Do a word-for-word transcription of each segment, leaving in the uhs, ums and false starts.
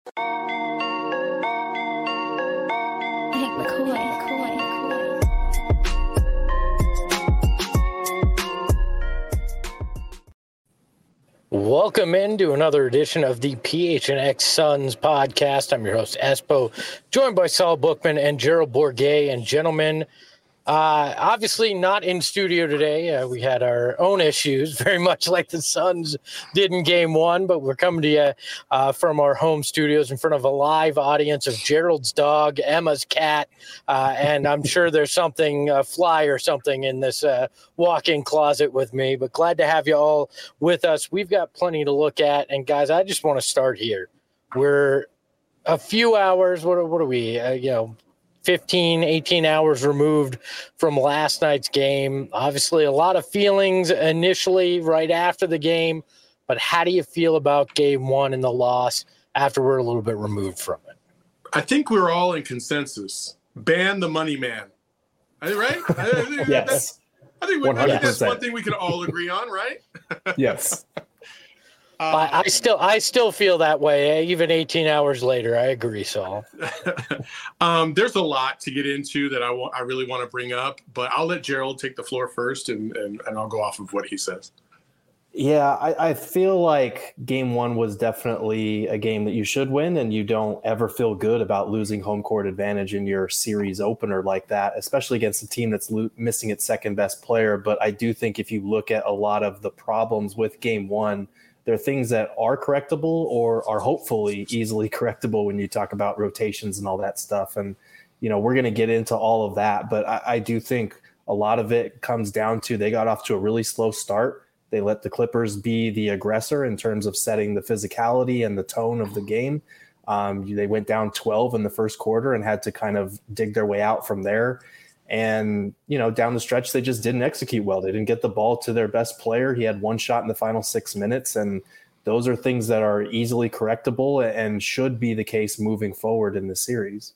Hank McCoy. McCoy. Welcome into another edition of the P H N X Suns podcast. I'm your host, Espo, joined by Saul Bookman and Gerald Bourguet. And gentlemen, uh, obviously not in studio today. Uh, we had our own issues, very much like the Suns did in game one, but we're coming to you uh, from our home studios in front of a live audience of Gerald's dog, Emma's cat, uh, and I'm sure there's something, a fly or something in this uh, walk-in closet with me, but glad to have you all with us. We've got plenty to look at, and guys, I just want to start here. We're a few hours, what are, what are we, uh, you know, fifteen, eighteen hours removed from last night's game. Obviously, a lot of feelings initially right after the game, but how do you feel about game one and the loss after we're a little bit removed from it? I think we're all in consensus. Ban the money man. Right? I think, Yes. that's, I, think we, I think that's one thing we can all agree on, right? Yes. Um, I, I still I still feel that way, even eighteen hours later. I agree, Saul. um, there's a lot to get into that I, wa- I really want to bring up, but I'll let Gerald take the floor first, and, and, and I'll go off of what he says. Yeah, I, I feel like game one was definitely a game that you should win, and you don't ever feel good about losing home court advantage in your series opener like that, especially against a team that's lo- missing its second best player. But I do think if you look at a lot of the problems with game one, there are things that are correctable or are hopefully easily correctable when you talk about rotations and all that stuff. And, you know, we're going to get into all of that. But I, I do think a lot of it comes down to they got off to a really slow start. They let the Clippers be the aggressor in terms of setting the physicality and the tone of the game. Um, they went down twelve in the first quarter and had to kind of dig their way out from there. And, you know, down the stretch, they just didn't execute well. They didn't get the ball to their best player. He had one shot in the final six minutes. And those are things that are easily correctable and should be the case moving forward in the series.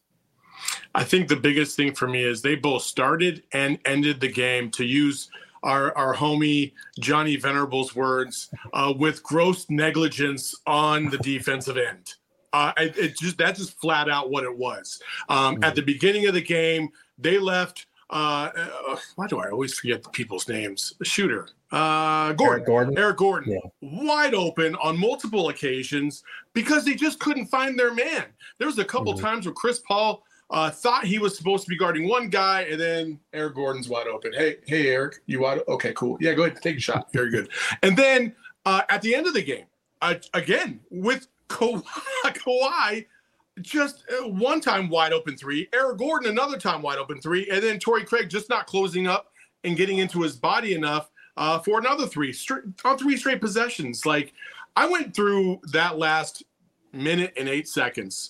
I think the biggest thing for me is they both started and ended the game, to use our, our homie Johnny Venerable's words, uh, with gross negligence on the defensive end. Uh, it, it just that's just flat out what it was. Um, mm-hmm. At the beginning of the game, they left. Uh, uh, why do I always forget the people's names? The shooter, uh, Gordon, Eric Gordon, Eric Gordon, yeah. wide open on multiple occasions because they just couldn't find their man. There was a couple mm-hmm. times where Chris Paul uh, thought he was supposed to be guarding one guy, and then Eric Gordon's wide open. Hey, hey, Eric, you wide? Okay, cool. Yeah, go ahead, take a shot. Very good. And then uh, at the end of the game, uh, again with Ka- Kawhi. Just one time wide open three, Eric Gordon another time wide open three, and then Torrey Craig just not closing up and getting into his body enough uh, for another three straight, on three straight possessions. Like, I went through that last minute and eight seconds,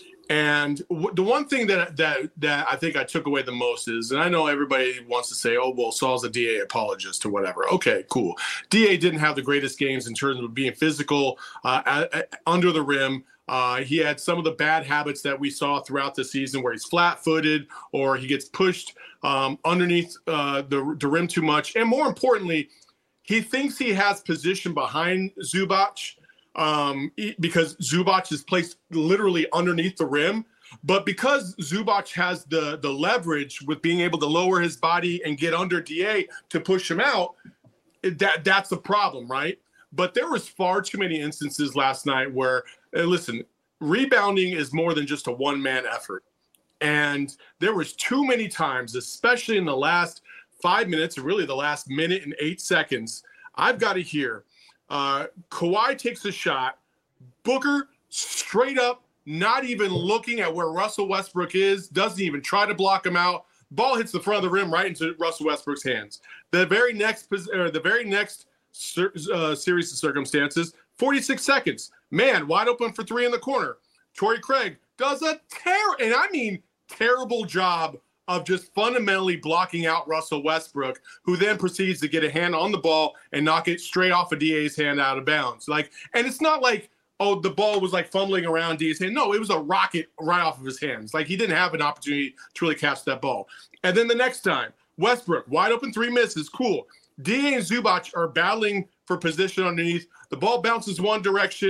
and w- the one thing that that that I think I took away the most is, and I know everybody wants to say, oh, well, Saul's a D A apologist or whatever. Okay, cool. D A didn't have the greatest games in terms of being physical uh, at, at, under the rim. Uh, he had some of the bad habits that we saw throughout the season where he's flat-footed or he gets pushed um, underneath uh, the, the rim too much. And more importantly, he thinks he has position behind Zubac um, because Zubac is placed literally underneath the rim. But because Zubac has the, the leverage with being able to lower his body and get under D A to push him out, that that's a problem, right? But there was far too many instances last night where, uh, listen, rebounding is more than just a one-man effort. And there was too many times, especially in the last five minutes, or really the last minute and eight seconds, I've got to hear uh, Kawhi takes a shot, Booker straight up, not even looking at where Russell Westbrook is, doesn't even try to block him out. Ball hits the front of the rim right into Russell Westbrook's hands. The very next, or the very next Uh, series of circumstances, forty-six seconds, man wide open for three in the corner. Torrey Craig does a ter- and I mean terrible job of just fundamentally blocking out Russell Westbrook, who then proceeds to get a hand on the ball and knock it straight off of D A's hand out of bounds. Like, and it's not like, oh, the ball was like fumbling around D A's hand. No, it was a rocket right off of his hands. Like, he didn't have an opportunity to really catch that ball. And then the next time, Westbrook, wide open three misses, cool. D A and Zubac are battling for position underneath. The ball bounces one direction.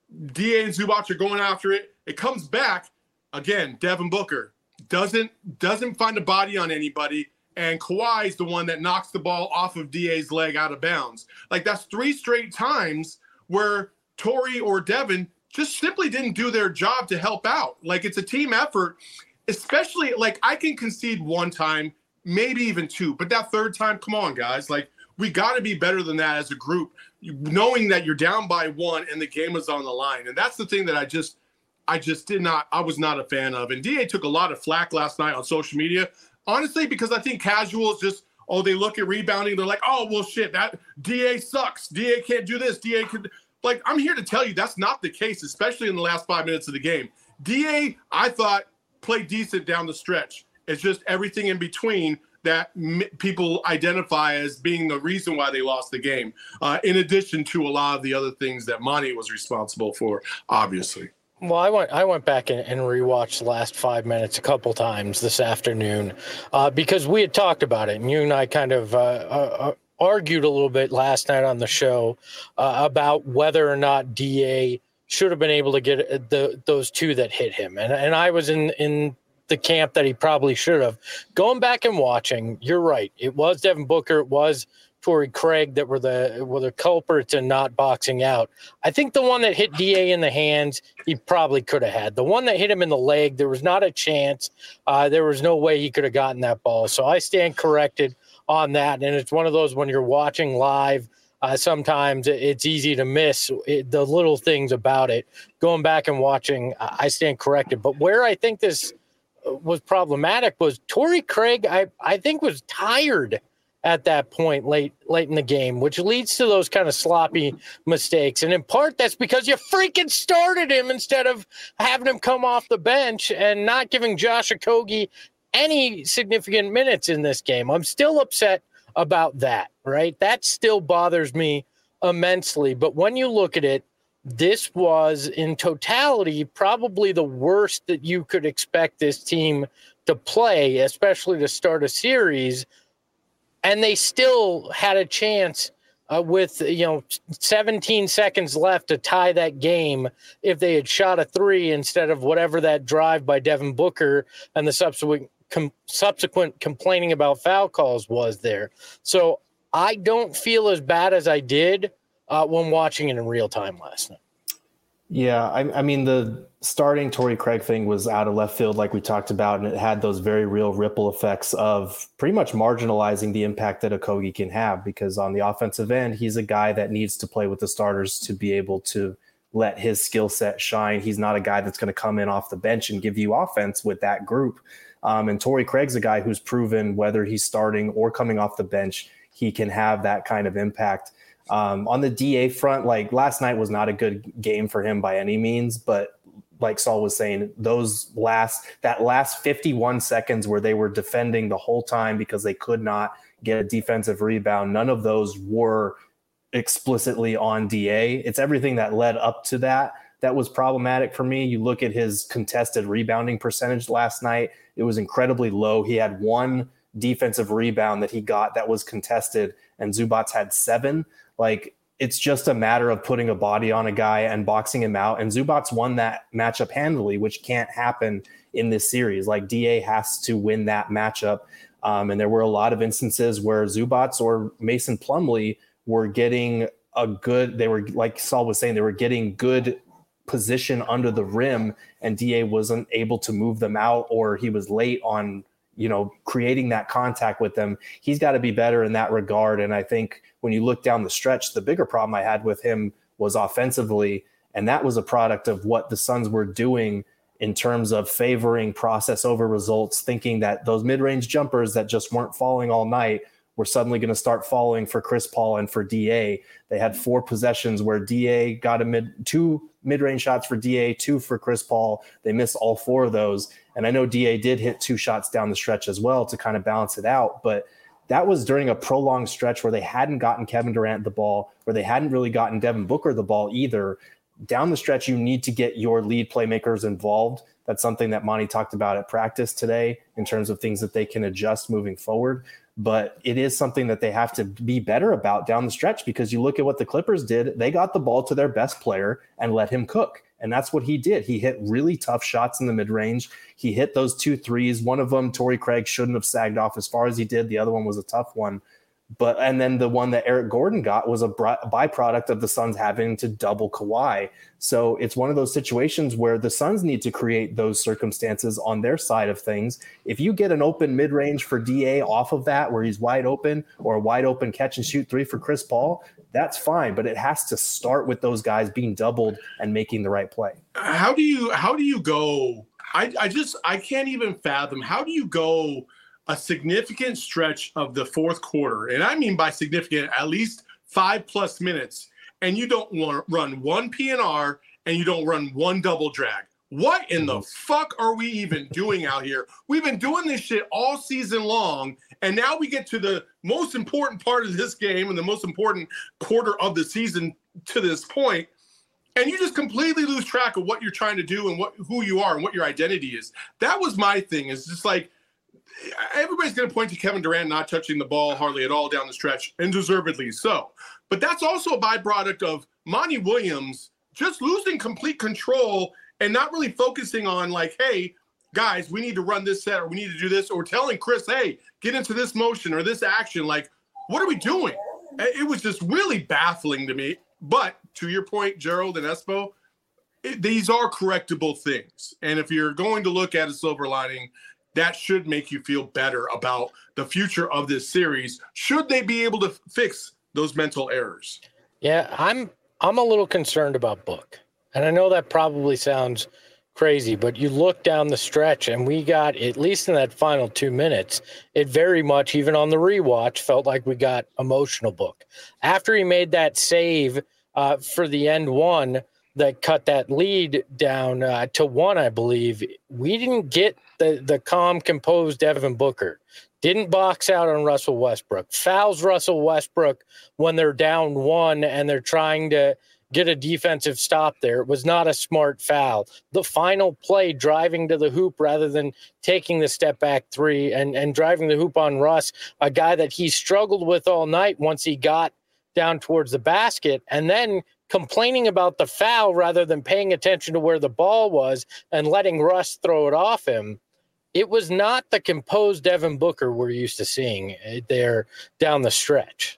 D A and Zubac are going after it. It comes back again. Devin Booker doesn't doesn't find a body on anybody, and Kawhi is the one that knocks the ball off of D A's leg out of bounds. Like, that's three straight times where Torrey or Devin just simply didn't do their job to help out. Like, it's a team effort, especially, like, I can concede one time, maybe even two, but that third time, come on, guys. Like, we got to be better than that as a group, knowing that you're down by one and the game is on the line. And that's the thing that I just, I just did not, I was not a fan of. And D A took a lot of flack last night on social media, honestly, because I think casuals just, oh, they look at rebounding, they're like, oh, well, shit, that D A sucks. D A can't do this. D A can, like, I'm here to tell you that's not the case, especially in the last five minutes of the game. D A, I thought, played decent down the stretch. It's just everything in between that m- people identify as being the reason why they lost the game, uh, in addition to a lot of the other things that Monty was responsible for, obviously. Well, I went I went back and, and rewatched the last five minutes a couple times this afternoon uh, because we had talked about it, and you and I kind of uh, uh, argued a little bit last night on the show uh, about whether or not D A should have been able to get the those two that hit him, and and I was in in. the camp that he probably should have. Going back and watching, you're right. It was Devin Booker. It was Torrey Craig that were the were the culprits in not boxing out. I think the one that hit D A in the hands, he probably could have had. The one that hit him in the leg, there was not a chance. Uh, there was no way he could have gotten that ball. So I stand corrected on that. And it's one of those when you're watching live, uh, sometimes it's easy to miss it, the little things about it. Going back and watching, I stand corrected. But where I think this was problematic was Torrey Craig, I, I think, was tired at that point late late in the game, which leads to those kind of sloppy mistakes. And in part, that's because you freaking started him instead of having him come off the bench and not giving Josh Okogie any significant minutes in this game. I'm still upset about that, right? That still bothers me immensely. But when you look at it, this was in totality probably the worst that you could expect this team to play, especially to start a series. And they still had a chance uh, with, you know, seventeen seconds left to tie that game if they had shot a three instead of whatever that drive by Devin Booker and the subsequent com- subsequent complaining about foul calls was there. So I don't feel as bad as I did Uh, when watching it in real time last night. Yeah, I, I mean, the starting Torrey Craig thing was out of left field, like we talked about, and it had those very real ripple effects of pretty much marginalizing the impact that Okogie can have, because on the offensive end, he's a guy that needs to play with the starters to be able to let his skill set shine. He's not a guy that's going to come in off the bench and give you offense with that group. Um, and Torrey Craig's a guy who's proven whether he's starting or coming off the bench, he can have that kind of impact. Um, on the D A front, like last night was not a good game for him by any means, but like Saul was saying, those last, that last fifty-one seconds where they were defending the whole time because they could not get a defensive rebound, none of those were explicitly on D A. It's everything that led up to that that was problematic for me. You look at his contested rebounding percentage last night, it was incredibly low. He had one defensive rebound that he got that was contested, and Zubac had seven. Like, it's just a matter of putting a body on a guy and boxing him out. And Zubac won that matchup handily, which can't happen in this series. Like, D A has to win that matchup. Um, and there were a lot of instances where Zubac or Mason Plumlee were getting a good, they were, like Saul was saying, they were getting good position under the rim, and D A wasn't able to move them out, or he was late on, you know, creating that contact with them. He's got to be better in that regard. And I think when you look down the stretch, the bigger problem I had with him was offensively. And that was a product of what the Suns were doing in terms of favoring process over results, thinking that those mid-range jumpers that just weren't falling all night were suddenly going to start falling for Chris Paul and for D A. They had four possessions where D A got a mid, two mid-range shots for D A, two for Chris Paul. They missed all four of those. And I know D A did hit two shots down the stretch as well to kind of balance it out. But that was during a prolonged stretch where they hadn't gotten Kevin Durant the ball, where they hadn't really gotten Devin Booker the ball either. Down the stretch, you need to get your lead playmakers involved. That's something that Monty talked about at practice today in terms of things that they can adjust moving forward. but it is something that they have to be better about down the stretch, because you look at what the Clippers did. They got the ball to their best player and let him cook. And that's what he did. He hit really tough shots in the mid-range. He hit those two threes. One of them, Torrey Craig shouldn't have sagged off as far as he did. The other one was a tough one. But and then the one that Eric Gordon got was a byproduct of the Suns having to double Kawhi. So it's one of those situations where the Suns need to create those circumstances on their side of things. If you get an open mid-range for D A off of that, where he's wide open, or a wide open catch and shoot three for Chris Paul, that's fine. But it has to start with those guys being doubled and making the right play. How do you how do you go? I, I just I can't even fathom. How do you go a significant stretch of the fourth quarter, and I mean by significant, at least five plus minutes, and you don't want to run one P N R and you don't run one double drag? What in the fuck are we even doing out here? We've been doing this shit all season long, and now we get to the most important part of this game and the most important quarter of the season to this point, and you just completely lose track of what you're trying to do and what who you are and what your identity is. That was my thing. Is just like, everybody's going to point to Kevin Durant not touching the ball hardly at all down the stretch, and deservedly so. But that's also a byproduct of Monty Williams just losing complete control and not really focusing on, like, hey, guys, we need to run this set, or we need to do this, or telling Chris, hey, get into this motion or this action. Like, what are we doing? It was just really baffling to me. But to your point, Gerald and Espo, it, these are correctable things. And if you're going to look at a silver lining, that should make you feel better about the future of this series, should they be able to fix those mental errors. Yeah, I'm I'm a little concerned about Book. And I know that probably sounds crazy, but you look down the stretch and we got, at least in that final two minutes, it very much, even on the rewatch, felt like we got emotional Book. After he made that save uh, for the end one that cut that lead down uh, to one, I believe, we didn't get the, the calm, composed Devin Booker. Didn't box out on Russell Westbrook. Fouls Russell Westbrook when they're down one and they're trying to get a defensive stop there. It was not a smart foul. The final play, driving to the hoop rather than taking the step back three and, and driving the hoop on Russ, a guy that he struggled with all night once he got down towards the basket, and then complaining about the foul rather than paying attention to where the ball was and letting Russ throw it off him. It was not the composed Devin Booker we're used to seeing there down the stretch.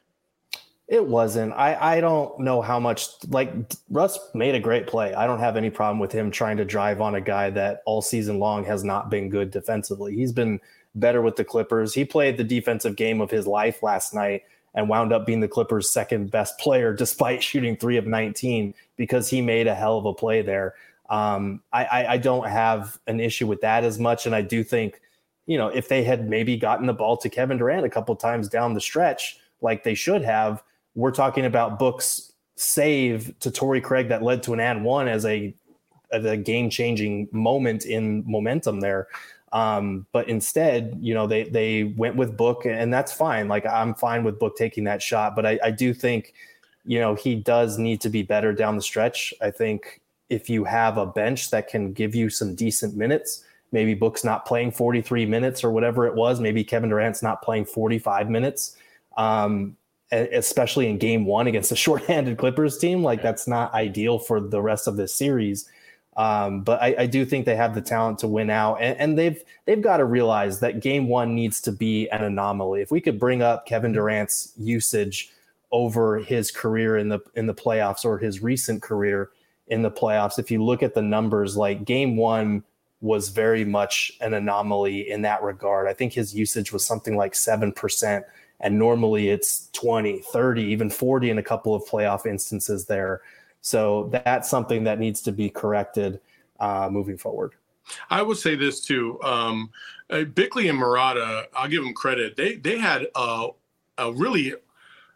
It wasn't. I, I don't know how much, like, Russ made a great play. I don't have any problem with him trying to drive on a guy that all season long has not been good defensively. He's been better with the Clippers. He played the defensive game of his life last night and wound up being the Clippers' second best player despite shooting three of nineteen because he made a hell of a play there. Um, I, I, I don't have an issue with that as much. And I do think, you know, if they had maybe gotten the ball to Kevin Durant a couple times down the stretch, like they should have, we're talking about Book's save to Torrey Craig that led to an and one as a, as a game-changing moment in momentum there. Um, but instead, you know, they they went with Book, and that's fine. Like, I'm fine with Book taking that shot, but I, I do think, you know, he does need to be better down the stretch. I think if you have a bench that can give you some decent minutes, maybe Book's not playing forty-three minutes or whatever it was. Maybe Kevin Durant's not playing forty-five minutes. Um, especially in game one against a shorthanded Clippers team. Like, that's not ideal for the rest of this series. Um, but I, I do think they have the talent to win out, and, and they've, they've got to realize that game one needs to be an anomaly. If we could bring up Kevin Durant's usage over his career in the, in the playoffs, or his recent career in the playoffs, if you look at the numbers, like, game one was very much an anomaly in that regard. I think his usage was something like seven percent. And normally it's twenty, thirty, even forty in a couple of playoff instances there. So that's something that needs to be corrected uh, moving forward. I would say this too. Um, uh, Bickley and Murata, I'll give them credit. They they had a, a really –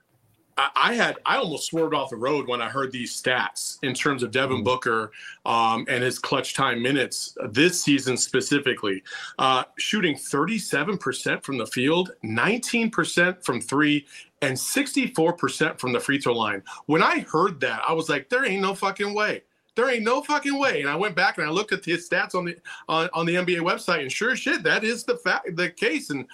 I had I almost swerved off the road when I heard these stats in terms of Devin Booker um, and his clutch time minutes this season specifically. Uh, shooting thirty-seven percent from the field, nineteen percent from three, and sixty-four percent from the free throw line. When I heard that, I was like, there ain't no fucking way. There ain't no fucking way. And I went back and I looked at his stats on the on, on the N B A website, and sure as shit, that is the fact, the case. And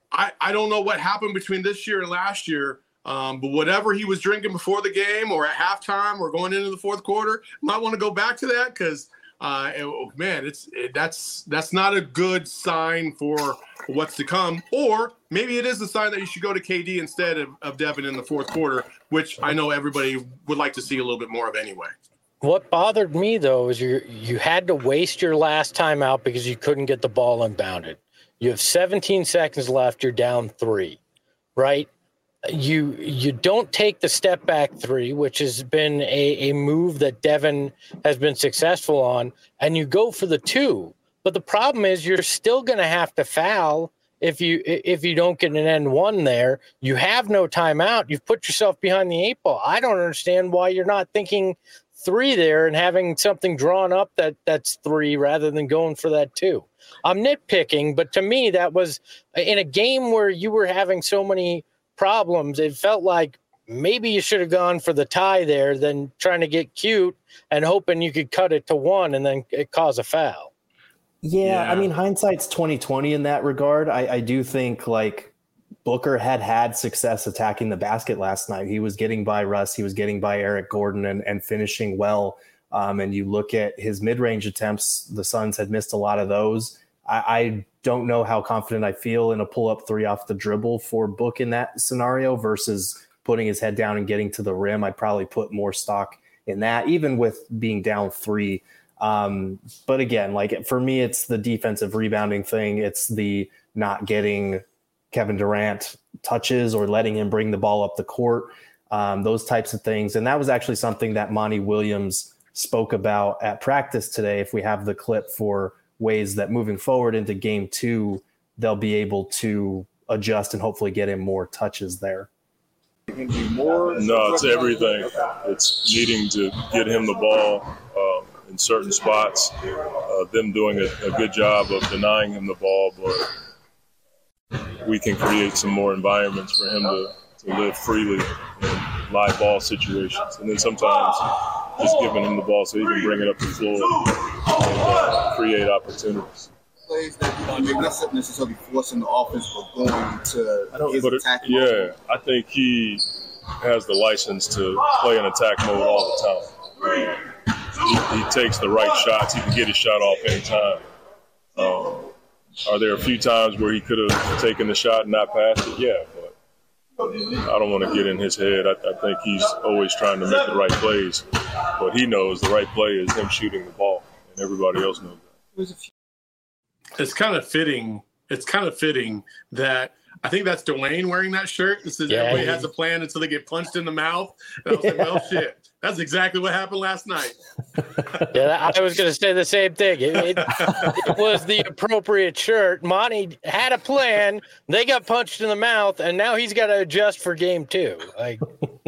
I, I don't know what happened between this year and last year, um, but whatever he was drinking before the game or at halftime or going into the fourth quarter, might want to go back to that because, uh, it, man, it's it, that's that's not a good sign for what's to come. Or maybe it is a sign that you should go to K D instead of, of Devin in the fourth quarter, which I know everybody would like to see a little bit more of anyway. What bothered me, though, is you you had to waste your last timeout because you couldn't get the ball unbounded. You have seventeen seconds left. You're down three, right? You you don't take the step back three, which has been a, a move that Devin has been successful on, and you go for the two. But the problem is you're still going to have to foul if you if you don't get an N one there. You have no timeout. You've put yourself behind the eight ball. I don't understand why you're not thinking three there and having something drawn up that that's three rather than going for that two. I'm nitpicking, but to me, that was in a game where you were having so many problems. It felt like maybe you should have gone for the tie there than trying to get cute and hoping you could cut it to one and then it cause a foul. Yeah, Yeah. I mean, hindsight's twenty twenty in that regard. I, I do think like Booker had had success attacking the basket last night. He was getting by Russ. He was getting by Eric Gordon and, and finishing well. Um, and you look at his mid-range attempts, the Suns had missed a lot of those. I, I don't know how confident I feel in a pull-up three off the dribble for Book in that scenario versus putting his head down and getting to the rim. I'd probably put more stock in that, even with being down three. Um, but again, like for me, it's the defensive rebounding thing. It's the not getting Kevin Durant touches or letting him bring the ball up the court, um, those types of things. And that was actually something that Monty Williams spoke about at practice today. If we have the clip for ways that moving forward into game two, they'll be able to adjust and hopefully get him more touches there. No, it's everything. It's needing to get him the ball um, in certain spots, uh, them doing a, a good job of denying him the ball, but we can create some more environments for him to, to live freely in live ball situations. And then sometimes just giving him the ball so he can bring it up the floor and uh, create opportunities. Plays that maybe not necessarily forcing the offense, but going to his But it, attack yeah, mode. I think he has the license to play in attack mode all the time. He, he takes the right shots. He can get his shot off anytime. Um, are there a few times where he could have taken the shot and not passed it? Yeah, but I don't want to get in his head. I, I think he's always trying to make the right plays, but he knows the right play is him shooting the ball, and everybody else knows that. It's kind of fitting. It's kind of fitting that I think that's Dwayne wearing that shirt. This is Yeah, everybody he- has a plan until they get punched in the mouth. And I was like, well, shit. That's exactly what happened last night. Yeah, I was going to say the same thing. It, it, it was the appropriate shirt. Monty had a plan. They got punched in the mouth, and now he's got to adjust for game two. Like,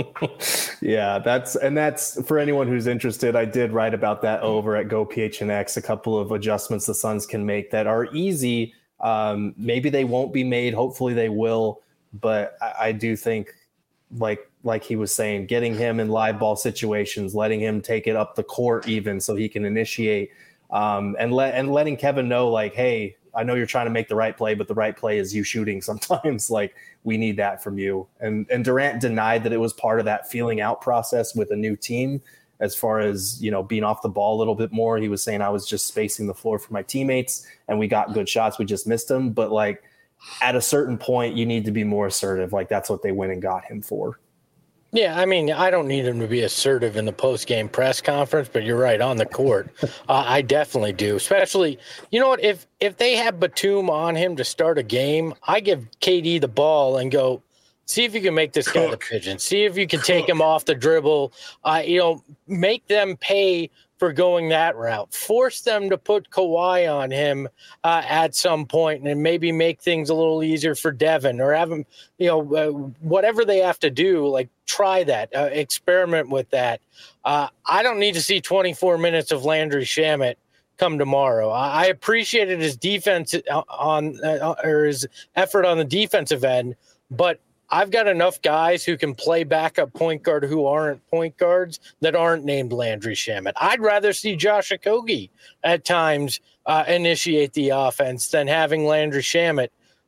Yeah, that's and that's for anyone who's interested. I did write about that over at Go P H N X. A couple of adjustments the Suns can make that are easy. Um, maybe they won't be made. Hopefully they will. But I, I do think, like like he was saying, getting him in live ball situations, letting him take it up the court even so he can initiate, um, and let and letting Kevin know, like, hey, I know you're trying to make the right play, but the right play is you shooting sometimes. Like, we need that from you. And and Durant denied that it was part of that feeling out process with a new team as far as, you know, being off the ball a little bit more. He was saying, I was just spacing the floor for my teammates and we got good shots. We just missed them. But like at a certain point, you need to be more assertive. Like that's what they went and got him for. yeah, I mean, I don't need him to be assertive in the post-game press conference, but you're right, on the court, uh, I definitely do. Especially, you know what, if if they have Batum on him to start a game, I give K D the ball and go, see if you can make this guy the pigeon. See if you can take him off the dribble. Uh, you know, make them pay for going that route. Force them to put Kawhi on him uh, at some point and maybe make things a little easier for Devin or have him, you know, uh, whatever they have to do, like try that, uh, experiment with that. Uh, I don't need to see twenty-four minutes of Landry Shamet come tomorrow. I, I appreciated his defense on uh, or his effort on the defensive end, but I've got enough guys who can play backup point guard who aren't point guards that aren't named Landry Shamet. I'd rather see Josh Okogie at times uh, initiate the offense than having Landry Shamet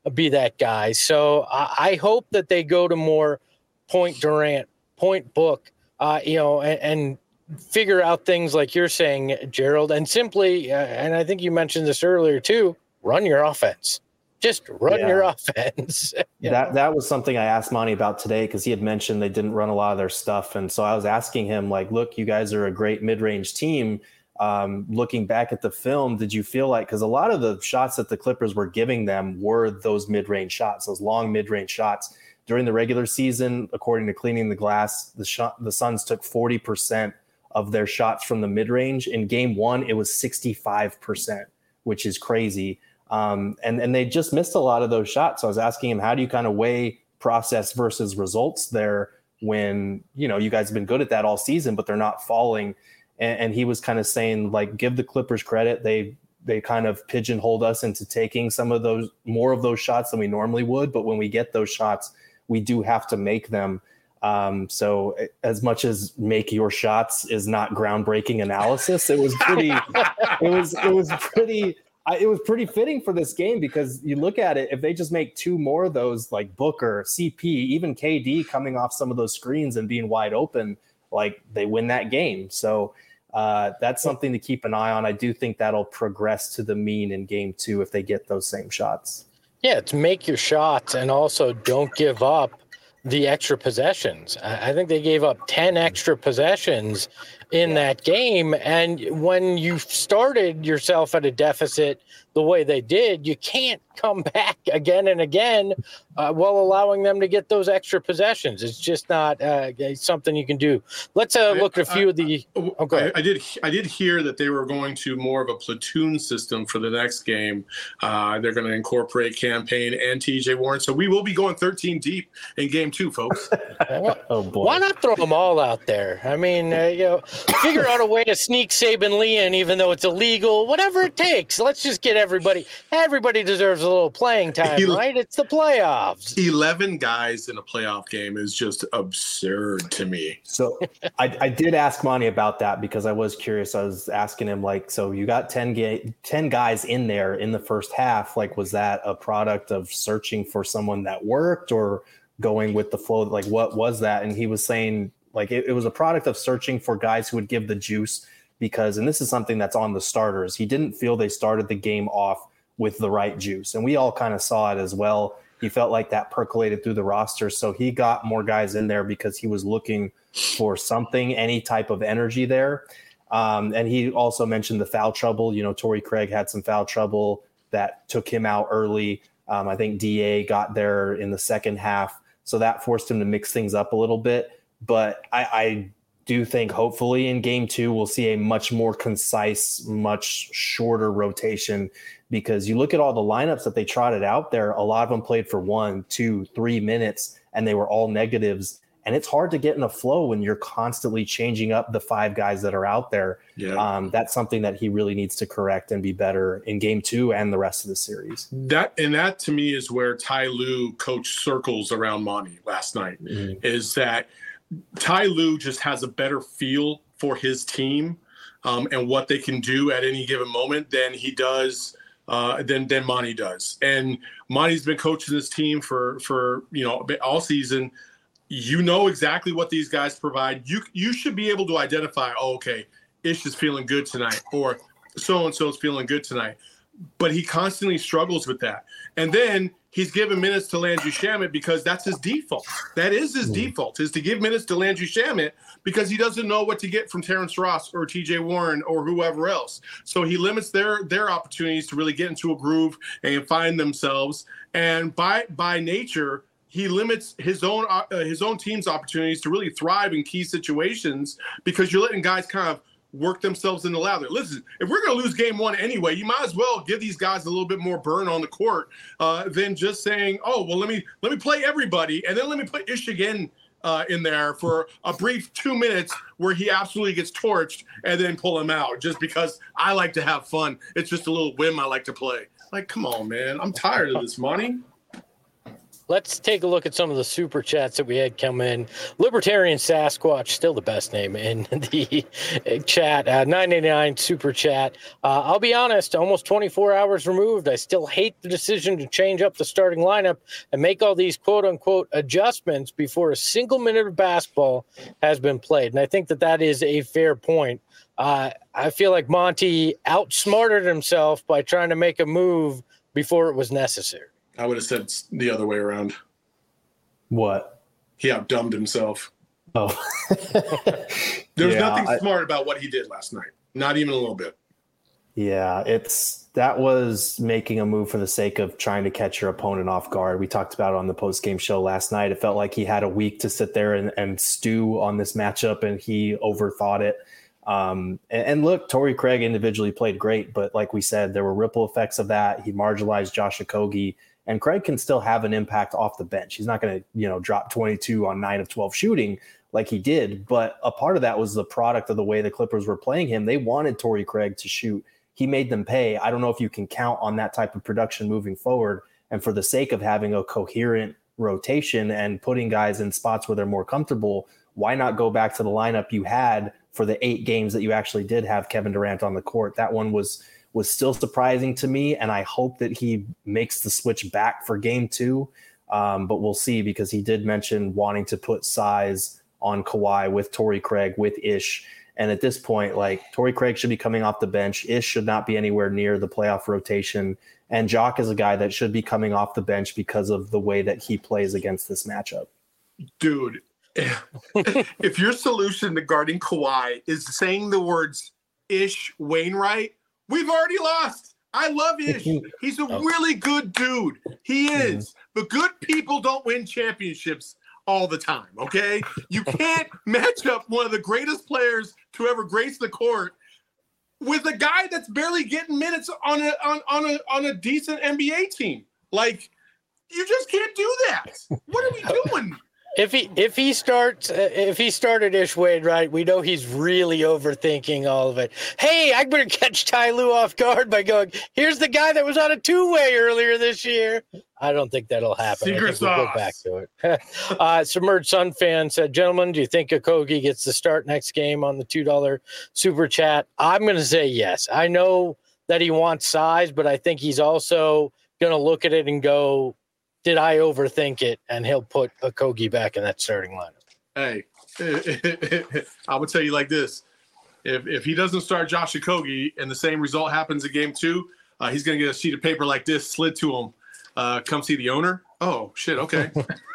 be that guy. So I, I hope that they go to more point Durant, point Book, uh, you know, and, and figure out things like you're saying, Gerald, and simply, uh, and I think you mentioned this earlier too, run your offense. Just run yeah. your offense. yeah. That that was something I asked Monty about today because he had mentioned they didn't run a lot of their stuff. And so I was asking him, like, look, you guys are a great mid-range team. Um, looking back at the film, did you feel like, because a lot of the shots that the Clippers were giving them were those mid-range shots, those long mid-range shots. During the regular season, according to Cleaning the Glass, the shot, the Suns took forty percent of their shots from the mid-range. In game one, it was sixty-five percent, which is crazy. Um, and, and they just missed a lot of those shots. So I was asking him, how do you kind of weigh process versus results there when, you know, you guys have been good at that all season, but they're not falling. And, and he was kind of saying, like, give the Clippers credit. They, they kind of pigeonholed us into taking some of those, more of those shots than we normally would. But when we get those shots, we do have to make them. Um, so as much as make your shots is not groundbreaking analysis, it was pretty, it was, it was pretty, it was pretty fitting for this game because you look at it, if they just make two more of those, like Booker, C P, even K D coming off some of those screens and being wide open, like they win that game. So uh, that's something to keep an eye on. I do think that'll progress to the mean in game two if they get those same shots. Yeah, it's make your shots and also don't give up the extra possessions. I think they gave up ten extra possessions in that game. And when you started yourself at a deficit the way they did, you can't come back again and again uh, while allowing them to get those extra possessions. It's just not uh, something you can do. Let's uh, look at a few I, of the. I, oh, go ahead. I, I did. I did hear that they were going to more of a platoon system for the next game. Uh, they're going to incorporate campaign and T J Warren. So we will be going thirteen deep in game two, folks. Oh boy! Why not throw them all out there? I mean, uh, you know, figure out a way to sneak Saban Lee in, even though it's illegal. Whatever it takes. Let's just get everybody. Everybody deserves a little playing time, right? It's the playoffs. eleven guys in a playoff game is just absurd to me. So I, I did ask Monty about that because I was curious. I was asking him, like, so you got ten, ga- ten guys in there in the first half. Like, was that a product of searching for someone that worked or going with the flow? Like, what was that? And he was saying, like, it, it was a product of searching for guys who would give the juice because, and this is something that's on the starters, he didn't feel they started the game off with the right juice. And we all kind of saw it as well. He felt like that percolated through the roster. So he got more guys in there because he was looking for something, any type of energy there. Um, and he also mentioned the foul trouble. You know, Torrey Craig had some foul trouble that took him out early. Um, I think D A got there in the second half. So that forced him to mix things up a little bit. But I, I do think hopefully in game two, we'll see a much more concise, much shorter rotation because you look at all the lineups that they trotted out there, a lot of them played for one, two, three minutes, and they were all negatives. And it's hard to get in a flow when you're constantly changing up the five guys that are out there. Yeah. Um, that's something that he really needs to correct and be better in game two and the rest of the series. That and that to me is where Ty Lue coached circles around Monty last night, mm-hmm. is that Ty Lue just has a better feel for his team um, and what they can do at any given moment than he does uh, than than Monty does. And Monty's been coaching this team for for you know all season. You know exactly what these guys provide. You you should be able to identify, oh, okay, Ish is feeling good tonight, or so-and-so is feeling good tonight. But he constantly struggles with that. And then he's given minutes to Landry Shamet because that's his default. That is his mm. default, is to give minutes to Landry Shamet because he doesn't know what to get from Terrence Ross or T J Warren or whoever else. So he limits their their opportunities to really get into a groove and find themselves. And by by nature, he limits his own uh, his own team's opportunities to really thrive in key situations because you're letting guys kind of work themselves in the lather. Listen, if we're going to lose game one anyway, you might as well give these guys a little bit more burn on the court uh, than just saying, oh, well, let me let me play everybody and then let me put Ish again uh, in there for a brief two minutes where he absolutely gets torched and then pull him out just because I like to have fun. It's just a little whim I like to play. Like, come on, man. I'm tired of this, Monty. let's take a look at some of the super chats that we had come in. Libertarian Sasquatch, still the best name in the chat. Uh, nine eighty-nine super chat. Uh, I'll be honest, almost twenty-four hours removed, I still hate the decision to change up the starting lineup and make all these quote unquote adjustments before a single minute of basketball has been played. And I think that that is a fair point. Uh, I feel like Monty outsmarted himself by trying to make a move before it was necessary. I would have said it's the other way around. What? He outdumbed himself. Oh. There's Yeah, nothing I- smart about what he did last night. Not even a little bit. Yeah, it's that was making a move for the sake of trying to catch your opponent off guard. We talked about it on the post-game show last night. It felt like he had a week to sit there and, and stew on this matchup, and he overthought it. Um, and, and look, Torrey Craig individually played great, but like we said, there were ripple effects of that. He marginalized Josh Okogie, and Craig can still have an impact off the bench. He's not going to, you know, drop twenty-two on nine of twelve shooting like he did, but a part of that was the product of the way the Clippers were playing him. They wanted Torrey Craig to shoot. He made them pay. I don't know if you can count on that type of production moving forward. And for the sake of having a coherent rotation and putting guys in spots where they're more comfortable, why not go back to the lineup you had for the eight games that you actually did have Kevin Durant on the court? That one was was still surprising to me, and I hope that he makes the switch back for game two. Um, but we'll see, because he did mention wanting to put size on Kawhi with Torrey Craig, with Ish. And at this point, like, Torrey Craig should be coming off the bench. Ish should not be anywhere near the playoff rotation. And Jock is a guy that should be coming off the bench because of the way that he plays against this matchup. Dude, if your solution to guarding Kawhi is saying the words Ish Wainwright, we've already lost. I love Ish. He's a really good dude. He is. But good people don't win championships all the time, okay? You can't match up one of the greatest players to ever grace the court with a guy that's barely getting minutes on a on, on a on a decent N B A team. Like, you just can't do that. What are we doing? If he if he starts uh, if he started Ish Wade right, we know he's really overthinking all of it. Hey, I better catch Ty Lue off guard by going, here's the guy that was on a two-way earlier this year. I don't think that'll happen. Secret I think we'll sauce. go back to it. uh, Submerged Sun fan said, gentlemen, do you think Okogie gets the start next game on the two dollar super chat? I'm going to say yes. I know that he wants size, but I think he's also going to look at it and go, did I overthink it? And he'll put Okogie back in that starting lineup. Hey, I would tell you like this. If if he doesn't start Josh Okogie and the same result happens in game two, uh, he's going to get a sheet of paper like this slid to him. Uh, come see the owner. Oh, shit. Okay.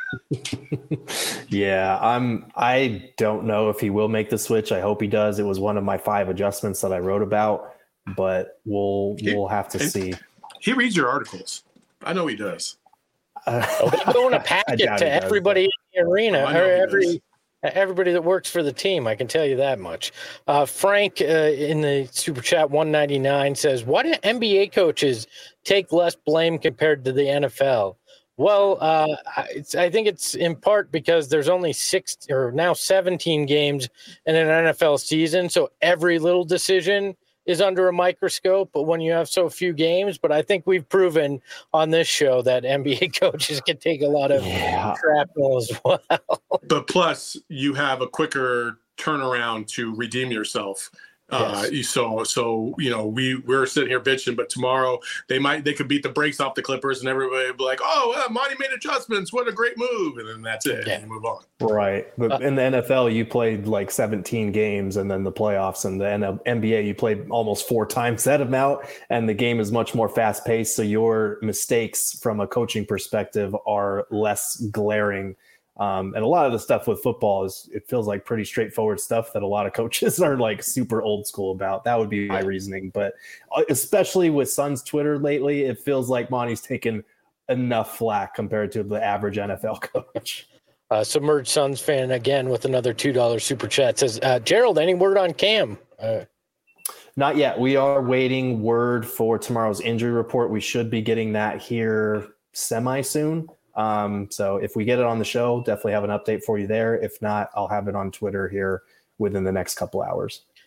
Yeah, I'm. I don't know if he will make the switch. I hope he does. It was one of my five adjustments that I wrote about, but we'll we'll have to see. He reads your articles. I know he does. Uh, Oh, they go in a I packet doubt to he does, everybody in the arena, Oh, I know or he every does. everybody that works for the team. I can tell you that much. Uh, Frank uh, in the super chat one ninety-nine says, "Why do N B A coaches take less blame compared to the N F L?" Well, uh, I- it's, I think it's in part because there's only six or now seventeen games in an N F L season, so every little decision is under a microscope. But when you have so few games, but I think we've proven on this show that N B A coaches can take a lot of Yeah. shrapnel as well. But plus, you have a quicker turnaround to redeem yourself. Uh, so, so you know, we we're sitting here bitching, but tomorrow they might they could beat the brakes off the Clippers, and everybody will be like, "Oh, well, Monty made adjustments. What a great move!" And then that's it. Yeah. And you move on. Right. But in the N F L, you played like seventeen games and then the playoffs, and the N B A, you played almost four times that amount. And the game is much more fast paced. So your mistakes from a coaching perspective are less glaring. Um, and a lot of the stuff with football is, it feels like pretty straightforward stuff that a lot of coaches are like super old school about. That would be my reasoning. But especially with Suns Twitter lately, it feels like Monty's taken enough flack compared to the average N F L coach. Uh, Submerged Suns fan again with another two dollar super chat says, uh, Gerald, any word on Cam? Uh, Not yet. We are waiting word for tomorrow's injury report. We should be getting that here semi soon. Um, so if we get it on the show, definitely have an update for you there. If not, I'll have it on Twitter here within the next couple hours.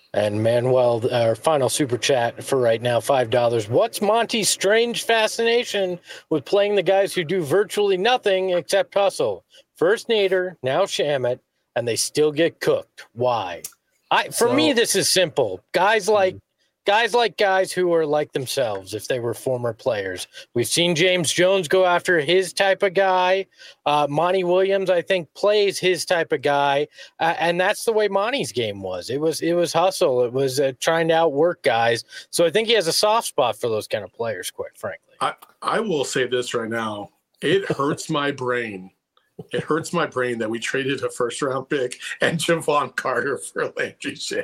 And Manuel, our final super chat for right now, five dollars. What's Monty's strange fascination with playing the guys who do virtually nothing except hustle? First Nader, now Shamet, and they still get cooked. Why? I For so, me, this is simple. Guys like guys like guys who are like themselves if they were former players. We've seen James Jones go after his type of guy. Uh, Monty Williams, I think, plays his type of guy, uh, and that's the way Monty's game was. It was it was hustle. It was uh, trying to outwork guys. So I think he has a soft spot for those kind of players, quite frankly. I, I will say this right now. It hurts my brain. It hurts my brain that we traded a first-round pick and Javon Carter for Landry Shamet.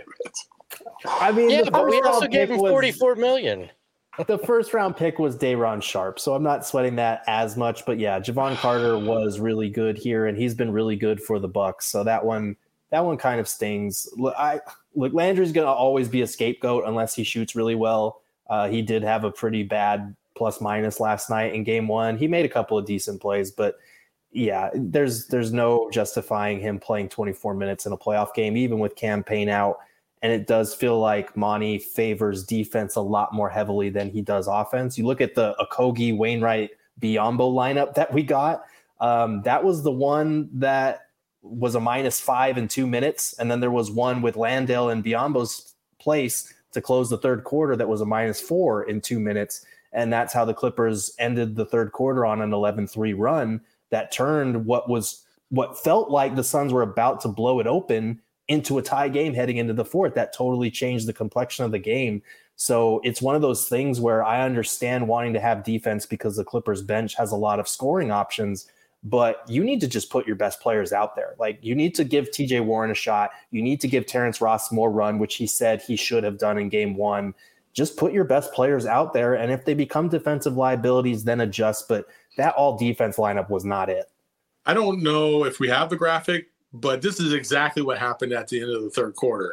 I mean, yeah, but we also gave him forty-four million. The first round pick was Day'Ron Sharp, so I'm not sweating that as much. But yeah, Javon Carter was really good here, and he's been really good for the Bucks. So that one, that one kind of stings. I look, Landry's going to always be a scapegoat unless he shoots really well. Uh, he did have a pretty bad plus minus last night in game one. He made a couple of decent plays, but yeah, there's there's no justifying him playing twenty-four minutes in a playoff game, even with Cam Payne out. And it does feel like Monty favors defense a lot more heavily than he does offense. You look at the Okogie, Wainwright, Biyombo lineup that we got. Um, that was the one that was a minus five in two minutes. And then there was one with Landale and Biyombo's place to close the third quarter that was a minus four in two minutes. And that's how the Clippers ended the third quarter on an eleven three run that turned what was what felt like the Suns were about to blow it open into a tie game heading into the fourth. That totally changed the complexion of the game. So it's one of those things where I understand wanting to have defense because the Clippers bench has a lot of scoring options, but you need to just put your best players out there. Like, you need to give T J Warren a shot. You need to give Terrence Ross more run, which he said he should have done in game one. Just put your best players out there. And if they become defensive liabilities, then adjust. But that all defense lineup was not it. I don't know if we have the graphic, but this is exactly what happened at the end of the third quarter.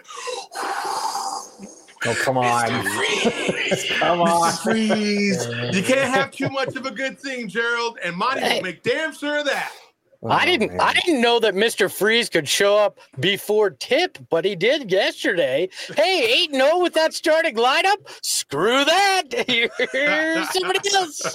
Oh, come on. Come on. Freeze. You can't have too much of a good thing, Gerald, and Monty will make damn sure of that. Oh, I didn't man. I didn't know that Mister Freeze could show up before tip, but he did yesterday. Hey, eight and oh with that starting lineup? Screw that. Here's somebody else.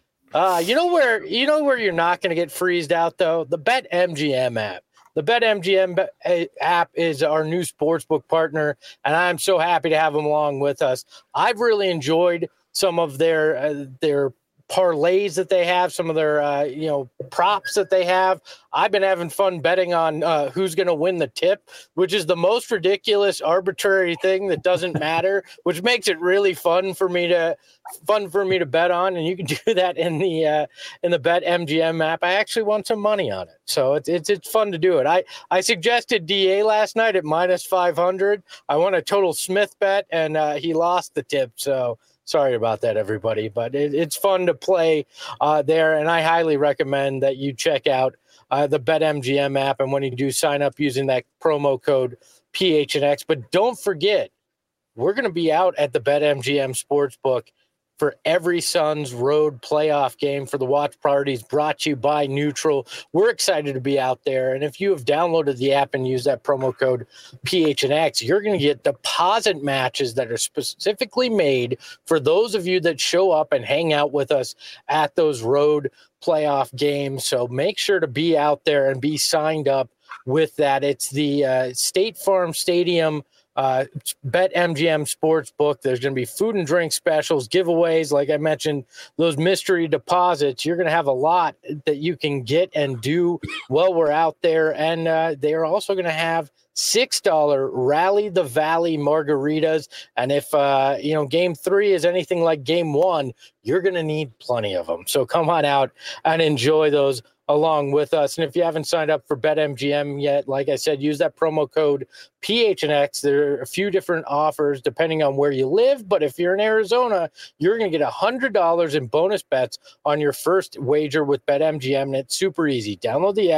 Uh, you know where you know where you're not going to get freezed out, though? The BetMGM app. The BetMGM app is our new sportsbook partner, and I'm so happy to have them along with us. I've really enjoyed some of their uh, their parlays that they have, some of their uh, you know props that they have. I've been having fun betting on uh, who's going to win the tip, which is the most ridiculous, arbitrary thing that doesn't matter, which makes it really fun for me to fun for me to bet on. And you can do that in the uh, in the BetMGM app. I actually won some money on it, so it's it's it's fun to do it. I I suggested D A last night at minus five hundred. I won a total Smith bet, and uh, he lost the tip. So. Sorry about that, everybody, but it, it's fun to play uh, there, and I highly recommend that you check out uh, the BetMGM app, and when you do, sign up using that promo code P H N X. But don't forget, we're going to be out at the BetMGM Sportsbook for every Suns road playoff game for the watch parties brought to you by Neutral. We're excited to be out there. And if you have downloaded the app and use that promo code P H N X, you're going to get deposit matches that are specifically made for those of you that show up and hang out with us at those road playoff games. So make sure to be out there and be signed up with that. It's the uh, State Farm Stadium Uh, BetMGM Sportsbook. There's going to be food and drink specials, giveaways. Like I mentioned, those mystery deposits. You're going to have a lot that you can get and do while we're out there. And uh, they are also going to have six dollars Rally the Valley margaritas. And if, uh, you know, game three is anything like game one, you're going to need plenty of them. So come on out and enjoy those along with us. And if you haven't signed up for BetMGM yet, like I said, use that promo code P H N X. There are a few different offers depending on where you live, but if you're in Arizona, you're going to get one hundred dollars in bonus bets on your first wager with BetMGM, and it's super easy. Download the app,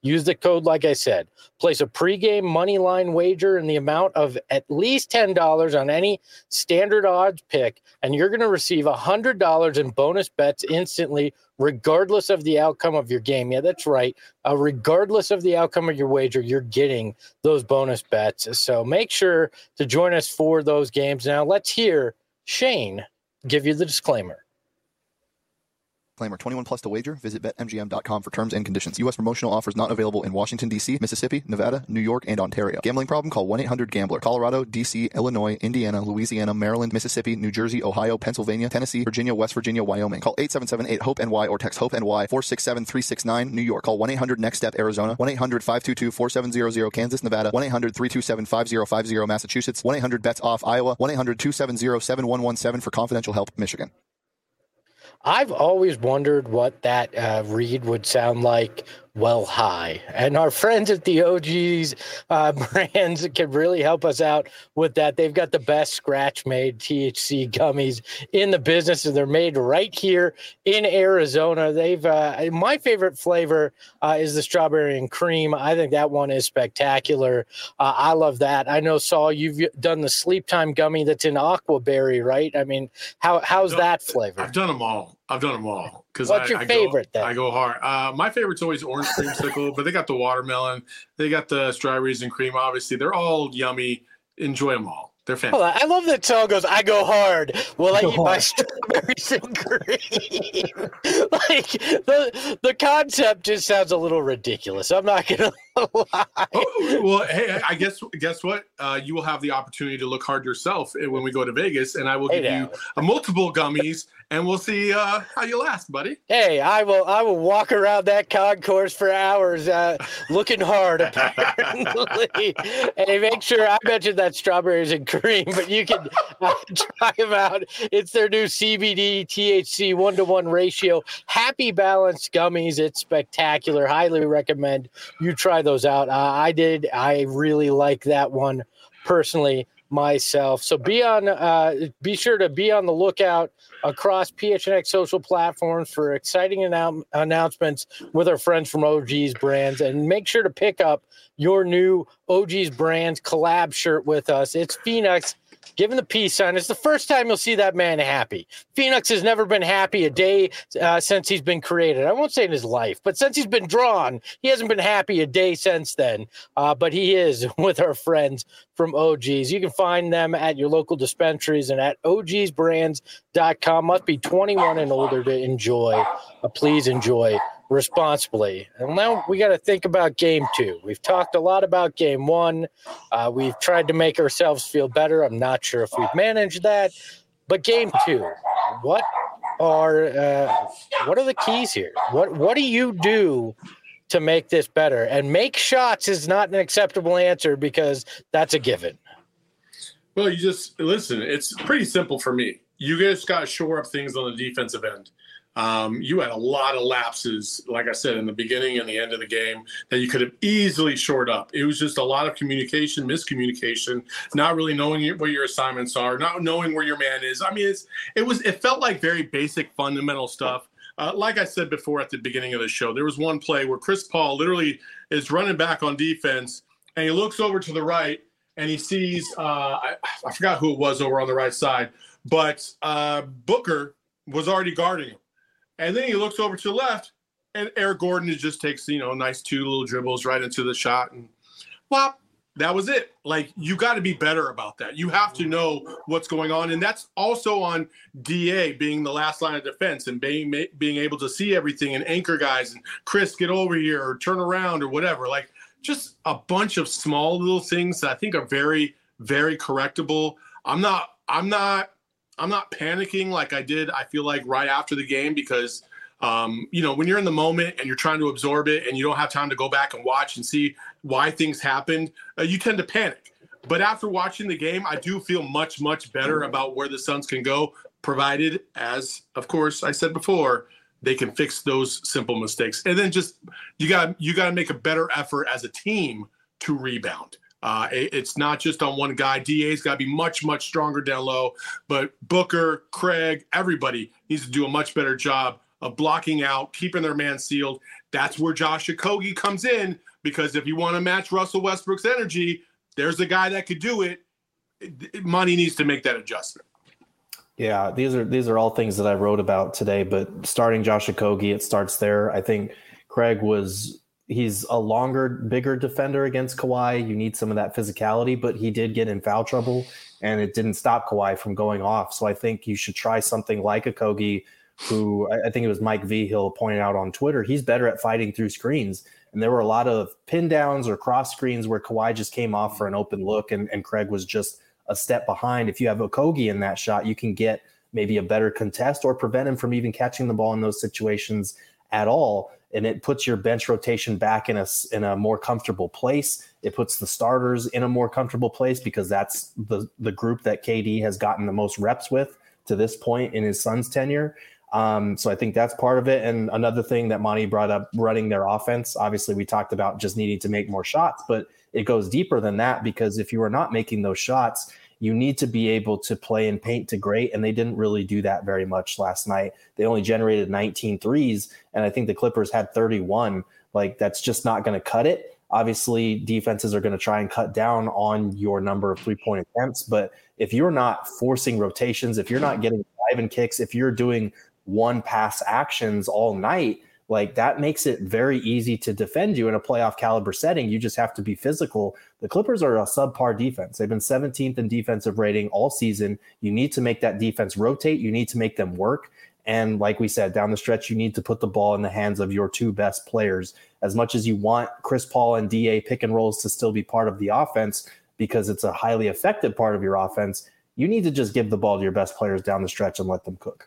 Use the code, like I said. Place a pregame money line wager in the amount of at least ten dollars on any standard odds pick, and you're going to receive one hundred dollars in bonus bets instantly, regardless of the outcome of your game. Yeah, that's right. Uh, regardless of the outcome of your wager, you're getting those bonus bets. So make sure to join us for those games. Now, let's hear Shane give you the disclaimer. Disclaimer, twenty-one plus to wager. Visit bet M G M dot com for terms and conditions. U S promotional offers not available in Washington, D C, Mississippi, Nevada, New York, and Ontario. Gambling problem? Call one eight hundred gambler. Colorado, D C, Illinois, Indiana, Louisiana, Maryland, Mississippi, New Jersey, Ohio, Pennsylvania, Tennessee, Virginia, West Virginia, Wyoming. Call eight seven seven eight hope N Y or text HOPE-NY four six seven three six nine. New York. Call one eight hundred next step Arizona. one eight hundred five two two four seven zero zero Kansas, Nevada. one eight hundred three two seven five zero five zero Massachusetts. one eight hundred bets off Iowa. one eight hundred two seven zero seven one one seven for confidential help, Michigan. I've always wondered what that uh, read would sound like well high. And our friends at the O G's uh, brands can really help us out with that. They've got the best scratch-made T H C gummies in the business, and they're made right here in Arizona. They've uh, my favorite flavor uh, is the strawberry and cream. I think that one is spectacular. Uh, I love that. I know, Saul, you've done the sleep time gummy that's in aquaberry, right? I mean, how how's done, that flavor? I've done them all. I've done them all. What's I, your I favorite go, then? I go hard. Uh, my favorite's always orange creamsicle, but they got the watermelon. They got the strawberries and cream. Obviously, they're all yummy. Enjoy them all. They're fantastic. I love that song goes, I go hard. Well, I eat my strawberries and cream. Like, the, the concept just sounds a little ridiculous. I'm not going to lie. Oh, well, hey, I guess guess what? Uh, you will have the opportunity to look hard yourself when we go to Vegas, and I will Hey give now. you uh, multiple gummies, and we'll see uh, how you last, buddy. Hey, I will I will walk around that concourse for hours uh, looking hard, apparently. Hey, make sure I mentioned that strawberries and cream, but you can uh, try them out. It's their new C B D T H C one-to-one ratio. Happy Balanced gummies. It's spectacular. Highly recommend you try those out. Uh, I did. I really like that one personally myself. So be on, uh, be sure to be on the lookout across P H N X social platforms for exciting annou- announcements with our friends from O G's Brands, and make sure to pick up your new O G's Brands collab shirt with us. It's Phoenix giving the peace sign. It's the first time you'll see that man happy. Phoenix has never been happy a day uh, since he's been created. I won't say in his life, but since he's been drawn, he hasn't been happy a day since then. Uh, but he is with our friends from O G's. You can find them at your local dispensaries and at O Gs brands dot com. Must be twenty-one and older to enjoy. Uh, please enjoy responsibly. And now we got to think about game two. We've talked a lot about game one. Uh, we've tried to make ourselves feel better. I'm not sure if we've managed that, but game two, what are, uh, what are the keys here? What, what do you do to make this better? And make shots is not an acceptable answer because that's a given. Well, you just listen. It's pretty simple for me. You just got to shore up things on the defensive end. Um, you had a lot of lapses, like I said, in the beginning and the end of the game that you could have easily shored up. It was just a lot of communication, miscommunication, not really knowing what your assignments are, not knowing where your man is. I mean, it's, it was, it felt like very basic, fundamental stuff. Uh, like I said before at the beginning of the show, there was one play where Chris Paul literally is running back on defense, and he looks over to the right, and he sees, uh, I, I forgot who it was over on the right side, but uh, Booker was already guarding him. And then he looks over to the left, and Eric Gordon just takes, you know, nice two little dribbles right into the shot. And, well, that was it. Like, you got to be better about that. You have to know what's going on. And that's also on D A being the last line of defense and being being able to see everything and anchor guys and Chris, get over here or turn around or whatever. Like, just a bunch of small little things that I think are very, very correctable. I'm not, I'm not, I'm not panicking like I did, I feel like, right after the game because, um, you know, when you're in the moment and you're trying to absorb it and you don't have time to go back and watch and see why things happened, uh, you tend to panic. But after watching the game, I do feel much, much better about where the Suns can go, provided, as, of course, I said before, they can fix those simple mistakes. And then just you got you got to make a better effort as a team to rebound. Uh, it, it's not just on one guy. D A's got to be much, much stronger down low. But Booker, Craig, everybody needs to do a much better job of blocking out, keeping their man sealed. That's where Josh Okogie comes in, because if you want to match Russell Westbrook's energy, there's a guy that could do it. Monty needs to make that adjustment. Yeah, these are these are all things that I wrote about today, but starting Josh Okogie, it starts there. I think Craig was he's a longer, bigger defender against Kawhi. You need some of that physicality, but he did get in foul trouble, and it didn't stop Kawhi from going off. So I think you should try something like Okogie, who I think it was Mike Vigil pointed out on Twitter. He's better at fighting through screens. And there were a lot of pin downs or cross screens where Kawhi just came off for an open look, and, and Craig was just a step behind. If you have Okogie in that shot, you can get maybe a better contest or prevent him from even catching the ball in those situations at all. And it puts your bench rotation back in a, in a more comfortable place. It puts the starters in a more comfortable place, because that's the, the group that K D has gotten the most reps with to this point in his son's tenure. Um, so I think that's part of it. And another thing that Monty brought up, running their offense. Obviously, we talked about just needing to make more shots, but it goes deeper than that, because if you are not making those shots, you need to be able to play and paint to great. And they didn't really do that very much last night. They only generated nineteen threes. And I think the Clippers had thirty-one. Like, that's just not going to cut it. Obviously, defenses are going to try and cut down on your number of three-point attempts. But if you're not forcing rotations, if you're not getting drive and kicks, if you're doing one pass actions all night, like, that makes it very easy to defend you in a playoff caliber setting. You just have to be physical. The Clippers are a subpar defense. They've been seventeenth in defensive rating all season. You need to make that defense rotate. You need to make them work. And like we said, down the stretch, you need to put the ball in the hands of your two best players. As much as you want Chris Paul and D A pick and rolls to still be part of the offense, because it's a highly effective part of your offense, you need to just give the ball to your best players down the stretch and let them cook.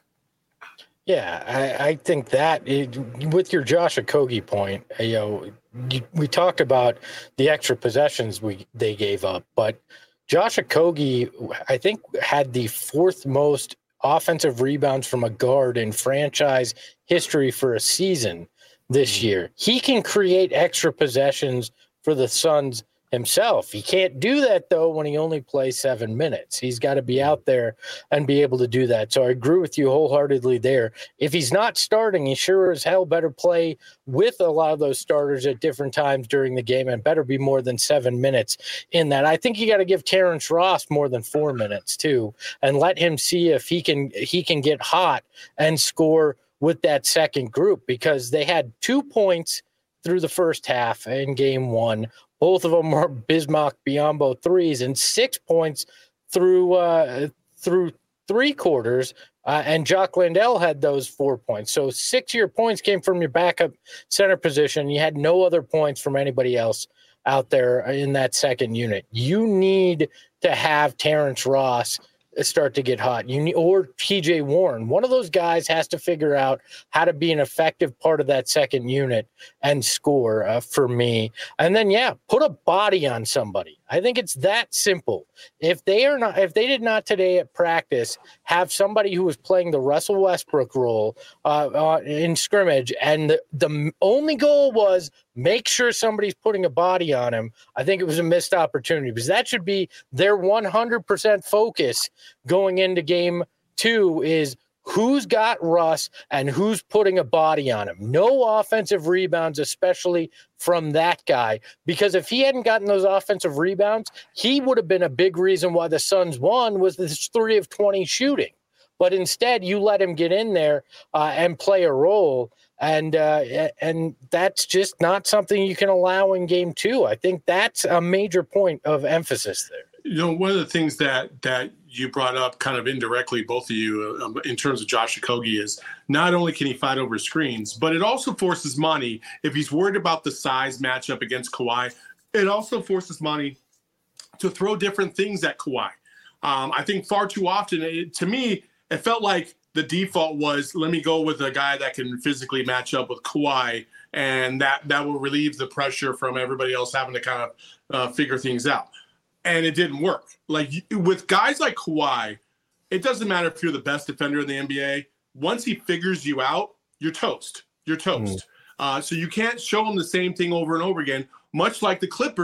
Yeah, I, I think that it, with your Josh Okogie point, you know, you, we talked about the extra possessions we they gave up, but Josh Okogie, I think, had the fourth most offensive rebounds from a guard in franchise history for a season this year. He can create extra possessions for the Suns himself. He can't do that, though, when he only plays seven minutes. He's got to be out there and be able to do that. So I agree with you wholeheartedly there. If he's not starting, he sure as hell better play with a lot of those starters at different times during the game, and better be more than seven minutes in that. I think you got to give Terrence Ross more than four minutes too, and let him see if he can he can get hot and score with that second group, because they had two points through the first half in game one. Both of them were Bismack Biyombo threes, and six points through uh, through three quarters. Uh, and Jock Landale had those four points. So six of your points came from your backup center position. You had no other points from anybody else out there in that second unit. You need to have Terrence Ross start to get hot. You need, or T J Warren. One of those guys has to figure out how to be an effective part of that second unit and score uh, for me. And then, yeah, put a body on somebody. I think it's that simple. If they are not, if they did not today at practice have somebody who was playing the Russell Westbrook role uh, uh, in scrimmage, and the, the only goal was make sure somebody's putting a body on him, I think it was a missed opportunity, because that should be their one hundred percent focus going into game two is who's got Russ and who's putting a body on him. No offensive rebounds, especially from that guy, because if he hadn't gotten those offensive rebounds, he would have been a big reason why the Suns won, was this three of twenty shooting. But instead, you let him get in there uh, and play a role. And uh, and that's just not something you can allow in game two. I think that's a major point of emphasis there. You know, one of the things that that you brought up kind of indirectly, both of you, um, in terms of Josh Okogie, is not only can he fight over screens, but it also forces Monty, if he's worried about the size matchup against Kawhi, it also forces Monty to throw different things at Kawhi. Um, I think far too often, it, to me, it felt like the default was, let me go with a guy that can physically match up with Kawhi, and that, that will relieve the pressure from everybody else having to kind of uh, figure things out. And it didn't work. Like, with guys like Kawhi, it doesn't matter if you're the best defender in the N B A. Once he figures you out, you're toast. You're toast. Mm. Uh, so you can't show him the same thing over and over again, much like the Clippers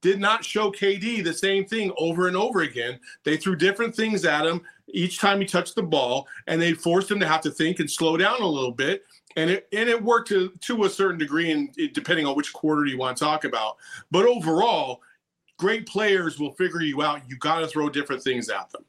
did not show K D the same thing over and over again. They threw different things at him each time he touched the ball, and they forced him to have to think and slow down a little bit. And it and it worked to, to a certain degree, and depending on which quarter you want to talk about. But overall, great players will figure you out. You got to throw different things at them.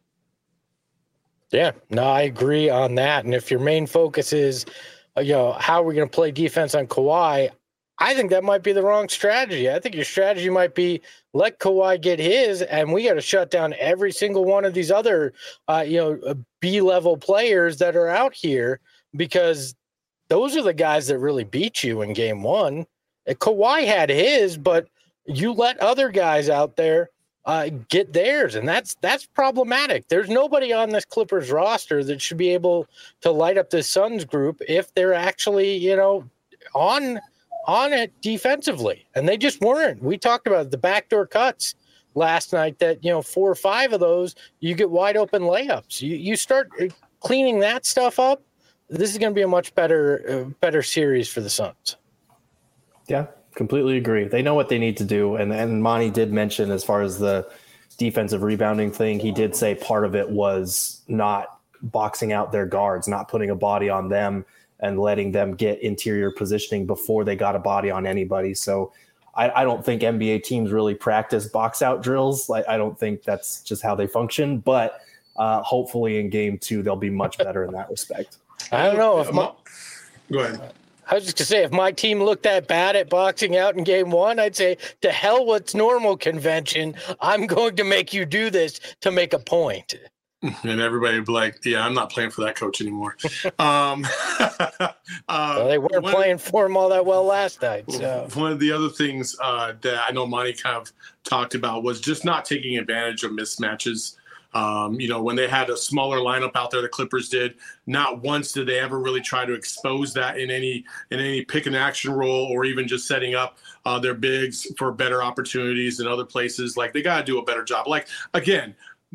Yeah, no, I agree on that. And if your main focus is, you know, how are we going to play defense on Kawhi, I think that might be the wrong strategy. I think your strategy might be let Kawhi get his, and we got to shut down every single one of these other, uh, you know, B-level players that are out here, because those are the guys that really beat you in game one. Kawhi had his, but you let other guys out there uh, get theirs, and that's that's problematic. There's nobody on this Clippers roster that should be able to light up this Suns group if they're actually, you know, on on it defensively, and they just weren't. We talked about the backdoor cuts last night that, you know, four or five of those, you get wide open layups. You you start cleaning that stuff up, this is going to be a much better uh, better series for the Suns. Yeah, completely agree. They know what they need to do. And, and Monty did mention, as far as the defensive rebounding thing, he did say part of it was not boxing out their guards, not putting a body on them and letting them get interior positioning before they got a body on anybody. So I, I don't think N B A teams really practice box out drills. Like, I don't think that's just how they function. But uh, hopefully in game two, they'll be much better in that respect. I don't know if my, go ahead. I was just gonna say, if my team looked that bad at boxing out in game one, I'd say, to hell what's normal convention. I'm going to make you do this to make a point. And everybody would be like, yeah, I'm not playing for that coach anymore. um, uh, well, they weren't one, playing for him all that well last night. So one of the other things uh, that I know Monty kind of talked about was just not taking advantage of mismatches. Um, you know, when they had a smaller lineup out there, the Clippers did, not once did they ever really try to expose that in any in any pick and action role, or even just setting up uh, their bigs for better opportunities in other places. Like, they got to do a better job. Like, again,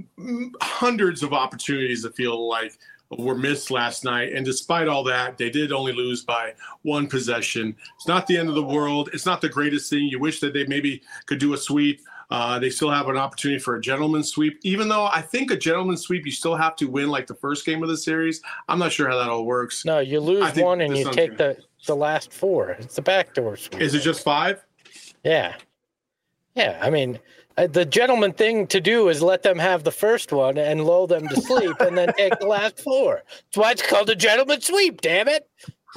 hundreds of opportunities that feel like were missed last night. And despite all that, they did only lose by one possession. It's not the end of the world. It's not the greatest thing. You wish that they maybe could do a sweep. Uh, they still have an opportunity for a gentleman's sweep, even though I think a gentleman's sweep, you still have to win like the first game of the series. I'm not sure how that all works. No, you lose one and you take the, the last four. It's the backdoor sweep. Is it just five? Yeah. Yeah, I mean, uh, the gentleman thing to do is let them have the first one and lull them to sleep and then take the last four. That's why it's called a gentleman's sweep, damn it.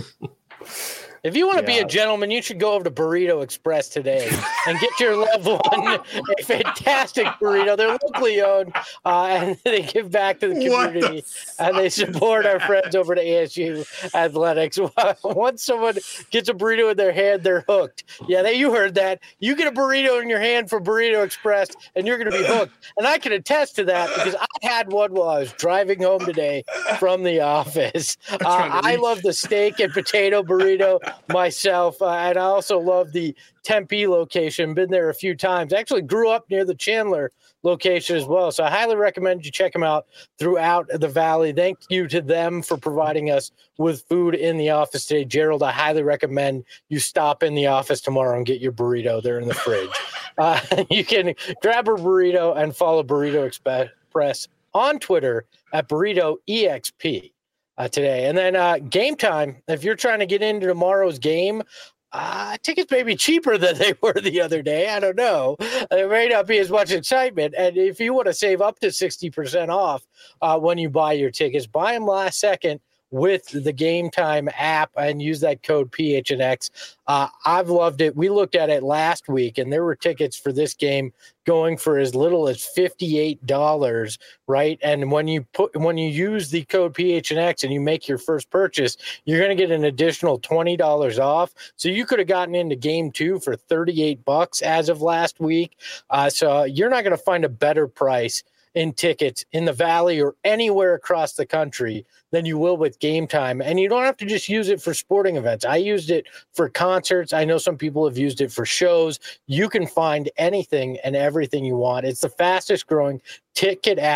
If you want to yeah. be a gentleman, you should go over to Burrito Express today and get your loved one a fantastic burrito. They're locally owned, uh, and they give back to the community, the and they support our friends over at A S U Athletics. Once someone gets a burrito in their hand, they're hooked. Yeah, they, you heard that. You get a burrito in your hand from Burrito Express, and you're going to be hooked. And I can attest to that because I had one while I was driving home today from the office. Uh, I love the steak and potato burrito myself, uh, and I also love the Tempe location. Been there a few times. Actually grew up near the Chandler location as well, so I highly recommend you check them out throughout the valley. Thank you to them for providing us with food in the office today. Gerald, I highly recommend you stop in the office tomorrow and get your burrito. They're in the fridge. Uh, you can grab a burrito and follow Burrito Express on Twitter at Burrito E X P. Uh, today. And then uh, game time, if you're trying to get into tomorrow's game, uh, tickets may be cheaper than they were the other day. I don't know. There may not be as much excitement. And if you want to save up to sixty percent off uh, when you buy your tickets, buy them last second with the Game Time app and use that code P H N X. Uh, I've loved it. We looked at it last week, and there were tickets for this game going for as little as fifty-eight dollars, right? And when you put when you use the code P H N X and you make your first purchase, you're going to get an additional twenty dollars off. So you could have gotten into game two for thirty-eight bucks as of last week. Uh, so you're not going to find a better price in tickets in the Valley or anywhere across the country than you will with Game Time. And you don't have to just use it for sporting events. I used it for concerts. I know some people have used it for shows. You can find anything and everything you want. It's the fastest growing ticket app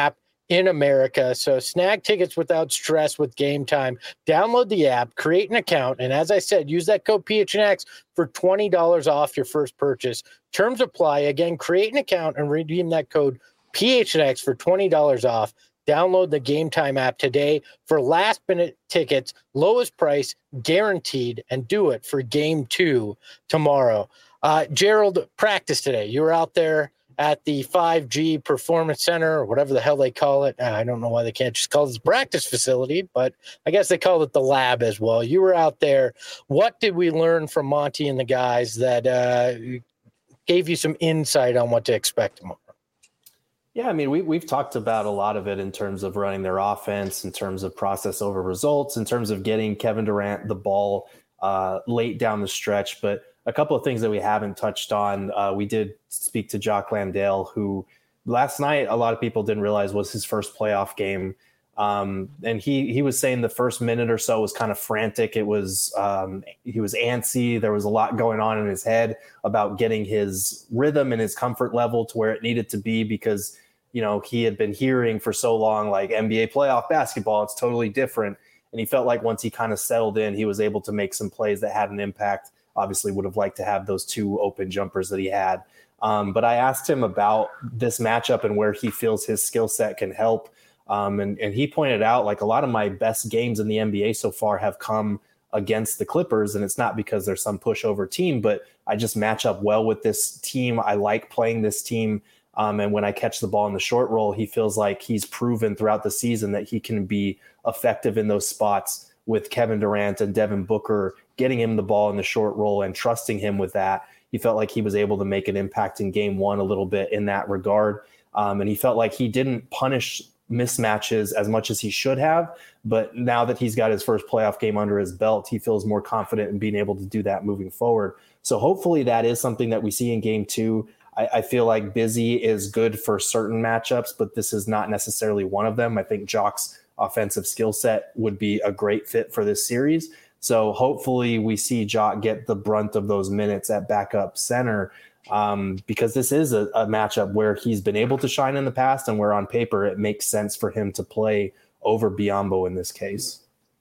in America. So snag tickets without stress with Game Time. Download the app, create an account, and as I said, use that code P H N X for twenty dollars off your first purchase. Terms apply. Again, create an account and redeem that code P H N X for twenty dollars off. Download the Game Time app today for last-minute tickets, lowest price, guaranteed, and do it for Game two tomorrow. Uh, Gerald, practice today. You were out there at the five G Performance Center, or whatever the hell they call it. I don't know why they can't just call it the practice facility, but I guess they call it the lab as well. You were out there. What did we learn from Monty and the guys that uh, gave you some insight on what to expect tomorrow? Yeah, I mean, we, we've talked about a lot of it in terms of running their offense, in terms of process over results, in terms of getting Kevin Durant the ball uh, late down the stretch. But a couple of things that we haven't touched on, uh, we did speak to Jock Landale, who last night a lot of people didn't realize was his first playoff game. Um, and he he was saying the first minute or so was kind of frantic. It was um, he was antsy. There was a lot going on in his head about getting his rhythm and his comfort level to where it needed to be, because you know, he had been hearing for so long, like N B A playoff basketball, it's totally different. And he felt like once he kind of settled in, he was able to make some plays that had an impact. Obviously would have liked to have those two open jumpers that he had. Um, but I asked him about this matchup and where he feels his skill set can help. Um, and, and he pointed out, like, a lot of my best games in the N B A so far have come against the Clippers. And it's not because they're some pushover team, but I just match up well with this team. I like playing this team. Um, and when I catch the ball in the short roll, he feels like he's proven throughout the season that he can be effective in those spots with Kevin Durant and Devin Booker, getting him the ball in the short roll and trusting him with that. He felt like he was able to make an impact in game one a little bit in that regard. Um, and he felt like he didn't punish mismatches as much as he should have. But now that he's got his first playoff game under his belt, he feels more confident in being able to do that moving forward. So hopefully that is something that we see in game two. I feel like Busy is good for certain matchups, but this is not necessarily one of them. I think Jock's offensive skill set would be a great fit for this series. So hopefully we see Jock get the brunt of those minutes at backup center, um, because this is a, a matchup where he's been able to shine in the past and where on paper it makes sense for him to play over Biyombo in this case.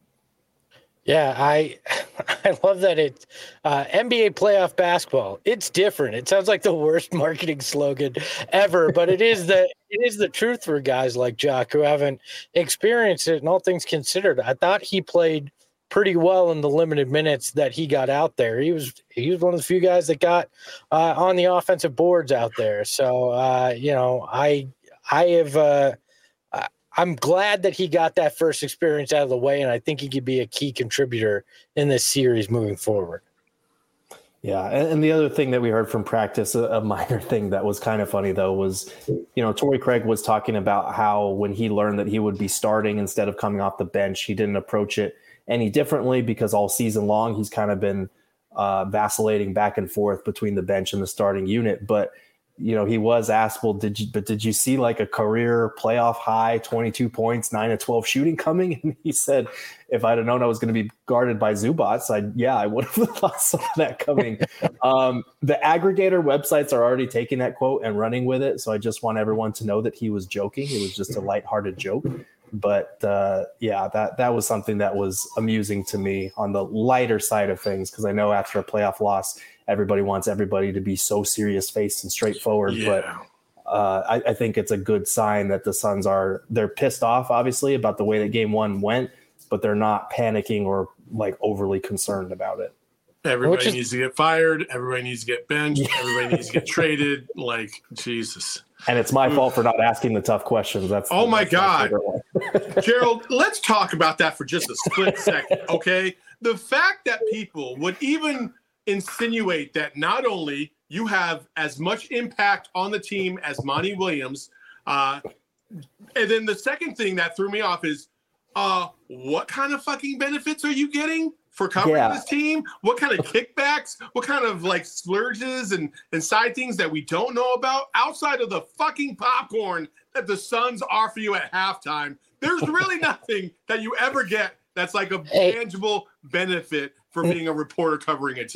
Yeah, I I love that it's uh, N B A playoff basketball. It's different. It sounds like the worst marketing slogan ever, but it is the it is the truth for guys like Jock who haven't experienced it. And all things considered, I thought he played pretty well in the limited minutes that he got out there. He was he was one of the few guys that got uh, on the offensive boards out there. So uh, you know, I I have. Uh, I'm glad that he got that first experience out of the way, and I think he could be a key contributor in this series moving forward. Yeah, and, and the other thing that we heard from practice, a, a minor thing that was kind of funny, though, was, you know, Torrey Craig was talking about how when he learned that he would be starting instead of coming off the bench, he didn't approach it any differently because all season long he's kind of been uh, vacillating back and forth between the bench and the starting unit. But you know, he was asked, well, did you, but did you see like a career playoff high, twenty-two points, nine to twelve shooting coming? And he said, if I'd have known I was going to be guarded by Zubats, I yeah, I would have thought some of that coming. um, the aggregator websites are already taking that quote and running with it. So I just want everyone to know that he was joking. It was just a lighthearted joke. But uh, yeah, that, that was something that was amusing to me on the lighter side of things, because I know after a playoff loss, everybody wants everybody to be so serious faced and straightforward. Yeah. But uh, I, I think it's a good sign that the Suns are, they're pissed off, obviously, about the way that game one went, but they're not panicking or like overly concerned about it. Everybody is, needs to get fired. Everybody needs to get benched. Yeah. Everybody needs to get traded. Like, Jesus. And it's my fault for not asking the tough questions. That's oh my that's God. Gerald, let's talk about that for just a split second, okay? The fact that people would even insinuate that not only you have as much impact on the team as Monty Williams, uh, and then the second thing that threw me off is, uh, what kind of fucking benefits are you getting for covering yeah. this team? What kind of kickbacks? What kind of like splurges and, and side things that we don't know about outside of the fucking popcorn that the Suns offer you at halftime? There's really nothing that you ever get that's like a hey. tangible benefit for being a reporter covering a team.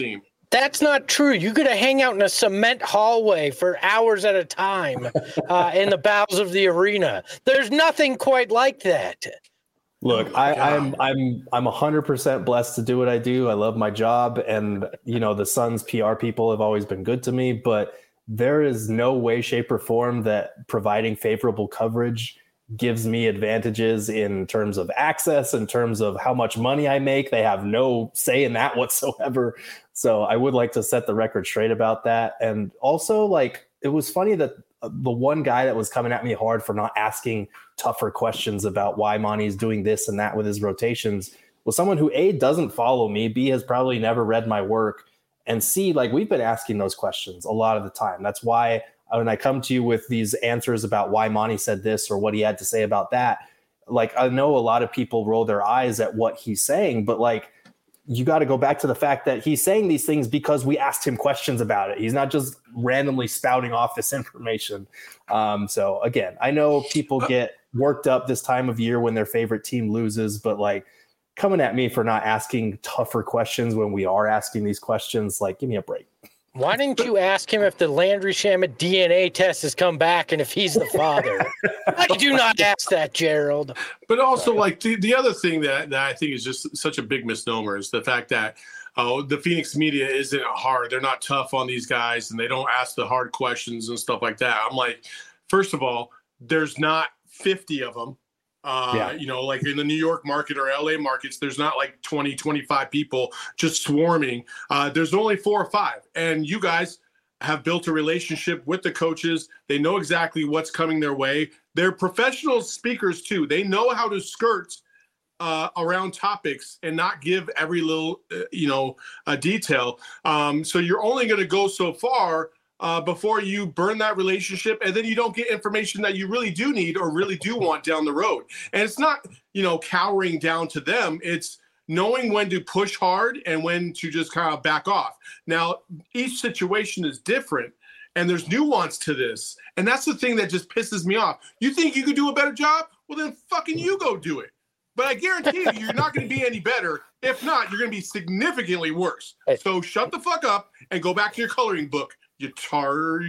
That's not true. You could hang out in a cement hallway for hours at a time uh, in the bowels of the arena. There's nothing quite like that. Look, I, I'm I'm I'm a hundred percent blessed to do what I do. I love my job, and you know the Suns P R people have always been good to me. But there is no way, shape, or form that providing favorable coverage gives me advantages in terms of access, in terms of how much money I make. They have no say in that whatsoever. So I would like to set the record straight about that. And also, like, it was funny that the one guy that was coming at me hard for not asking tougher questions about why Monty's doing this and that with his rotations was someone who A, doesn't follow me, B, has probably never read my work, and C, like, we've been asking those questions a lot of the time. That's why when I come to you with these answers about why Monty said this or what he had to say about that, like, I know a lot of people roll their eyes at what he's saying, but like, you got to go back to the fact that he's saying these things because we asked him questions about it. He's not just randomly spouting off this information. Um, so again, I know people get worked up this time of year when their favorite team loses, but like, coming at me for not asking tougher questions when we are asking these questions, like, give me a break. Why didn't you ask him if the Landry Shamet D N A test has come back and if he's the father? Why did you not ask that, Gerald? But also, like, the, the other thing that, that I think is just such a big misnomer is the fact that oh, the Phoenix media isn't hard. They're not tough on these guys, and they don't ask the hard questions and stuff like that. I'm like, first of all, there's not fifty of them. Uh, yeah. You know, like in the New York market or L A markets, there's not like twenty, twenty-five people just swarming. Uh, there's only four or five. And you guys have built a relationship with the coaches. They know exactly what's coming their way. They're professional speakers, too. They know how to skirt uh, around topics and not give every little, uh, you know, uh, detail. Um, so you're only going to go so far Uh, before you burn that relationship, and then you don't get information that you really do need or really do want down the road. And it's not, you know, cowering down to them. It's knowing when to push hard and when to just kind of back off. Now, each situation is different, and there's nuance to this. And that's the thing that just pisses me off. You think you could do a better job? Well, then fucking you go do it. But I guarantee you, you're not going to be any better. If not, you're going to be significantly worse. So shut the fuck up and go back to your coloring book. You tar.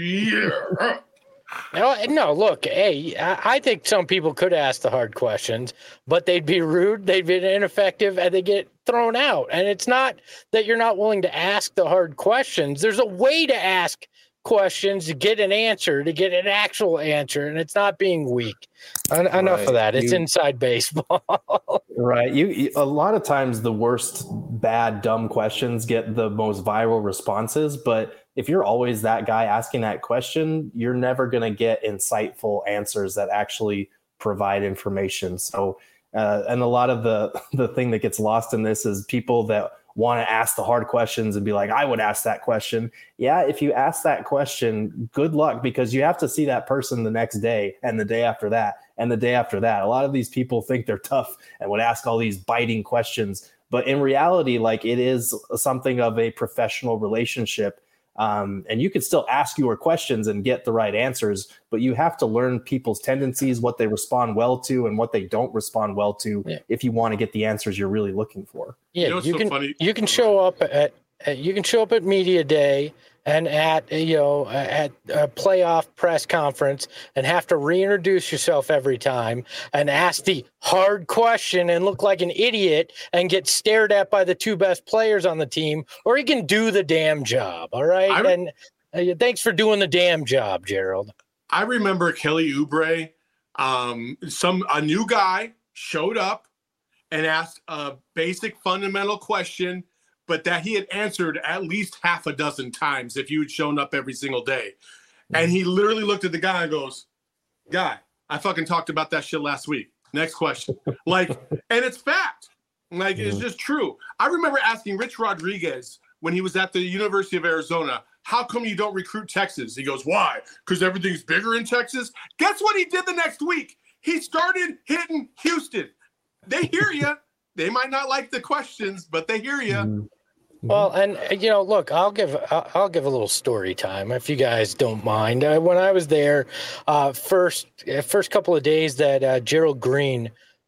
No, no, look, hey, I think some people could ask the hard questions, but they'd be rude, they'd be ineffective, and they get thrown out. And it's not that you're not willing to ask the hard questions. There's a way to ask questions to get an answer, to get an actual answer, and it's not being weak. En- right. Enough of that. It's you, inside baseball. Right. You, you a lot of times the worst bad dumb questions get the most viral responses, but if you're always that guy asking that question, you're never going to get insightful answers that actually provide information. So, uh, and a lot of the the thing that gets lost in this is people that want to ask the hard questions and be like, I would ask that question. Yeah, if you ask that question, good luck, because you have to see that person the next day and the day after that and the day after that. A lot of these people think they're tough and would ask all these biting questions. But in reality, like, it is something of a professional relationship. Um, and you can still ask your questions and get the right answers, but you have to learn people's tendencies, what they respond well to and what they don't respond well to, yeah, if you want to get the answers you're really looking for. Yeah, you, know, you so can funny? you can show up at you can show up at media day and at you know at a playoff press conference and have to reintroduce yourself every time and ask the hard question and look like an idiot and get stared at by the two best players on the team, or you can do the damn job. All right. I, and uh, thanks for doing the damn job, Gerald. I remember Kelly Oubre, um, some a new guy showed up and asked a basic fundamental question, but that he had answered at least half a dozen times if you had shown up every single day. And he literally looked at the guy and goes, guy, I fucking talked about that shit last week. Next question. Like, and it's fact. Like, it's just true. I remember asking Rich Rodriguez when he was at the University of Arizona, how come you don't recruit Texas? He goes, why? Because everything's bigger in Texas? Guess what he did the next week? He started hitting Houston. They hear you. They might not like the questions, but they hear you. Mm-hmm. Well, and you know, look, I'll give I'll give a little story time if you guys don't mind. Uh, when I was there, uh, first first couple of days that uh, Gerald Green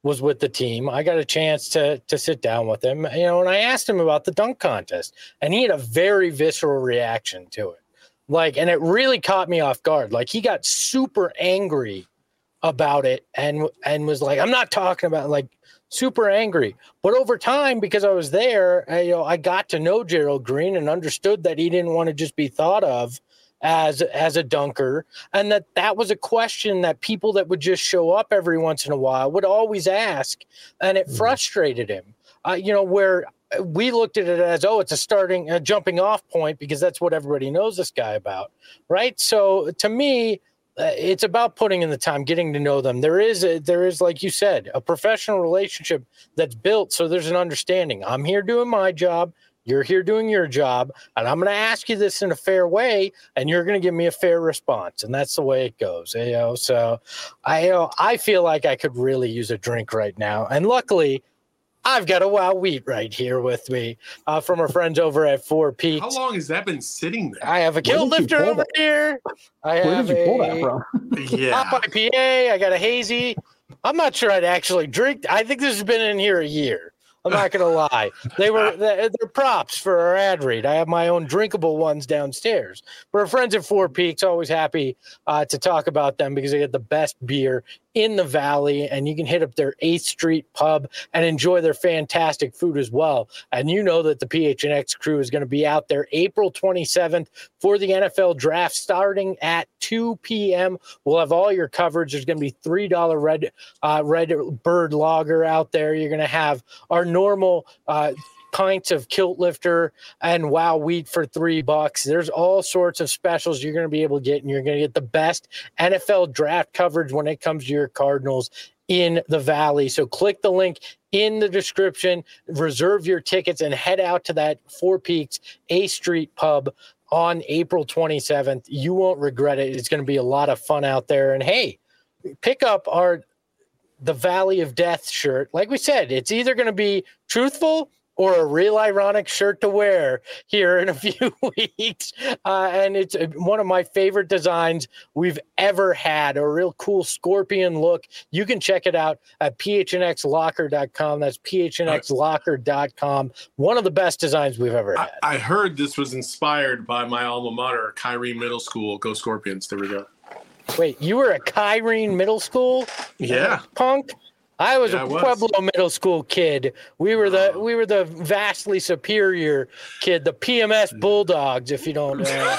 was with the team, I got a chance to to sit down with him, you know, and I asked him about the dunk contest, and he had a very visceral reaction to it. Like, and it really caught me off guard. Like, he got super angry about it and and was like, I'm not talking about, like, super angry. But over time, because I was there, I, you know, I got to know Gerald Green and understood that he didn't want to just be thought of as as a dunker, and that that was a question that people that would just show up every once in a while would always ask, and it frustrated him. Uh, you know, where we looked at it as, oh, it's a starting, a jumping off point because that's what everybody knows this guy about, right? So to me, uh, it's about putting in the time, getting to know them. There is, a, there is, like you said, a professional relationship that's built. So there's an understanding. I'm here doing my job. You're here doing your job, and I'm going to ask you this in a fair way, and you're going to give me a fair response, and that's the way it goes. You know, so I, you know, I feel like I could really use a drink right now, and luckily, I've got a Wow Wheat right here with me uh, from our friends over at Four Peaks. How long has that been sitting there? I have a kilt lifter over here. I Where have did you pull a that from? Yeah. Top I P A. I got a hazy. I'm not sure I'd actually drink. I think this has been in here a year. I'm not going to lie. They were they're props for our ad read. I have my own drinkable ones downstairs. But our friends at Four Peaks, always happy uh, to talk about them because they get the best beer in the Valley, and you can hit up their eighth Street pub and enjoy their fantastic food as well. And you know that the P H N X crew is going to be out there April twenty-seventh for the N F L draft starting at two p.m. We'll have all your coverage. There's going to be three dollars red uh, red bird lager out there. You're going to have our normal uh, pints of kilt lifter and Wow Wheat for three bucks. There's all sorts of specials you're going to be able to get, and you're going to get the best N F L draft coverage when it comes to your Cardinals in the Valley. So click the link in the description, reserve your tickets, and head out to that Four Peaks eighth Street pub on April twenty-seventh. You won't regret it. It's going to be a lot of fun out there. And hey, pick up our the Valley of Death shirt. Like we said, it's either going to be truthful or a real ironic shirt to wear here in a few weeks. Uh, and it's one of my favorite designs we've ever had, a real cool scorpion look. You can check it out at P H N X locker dot com. That's P H N X locker dot com. One of the best designs we've ever had. I, I heard this was inspired by my alma mater, Kyrene Middle School. Go Scorpions. There we go. Wait, you were at Kyrene Middle School? Yeah. Punk? I was Yeah, a I was. Pueblo Middle School kid. We were the we were the vastly superior kid, the P M S Bulldogs. If you don't, uh,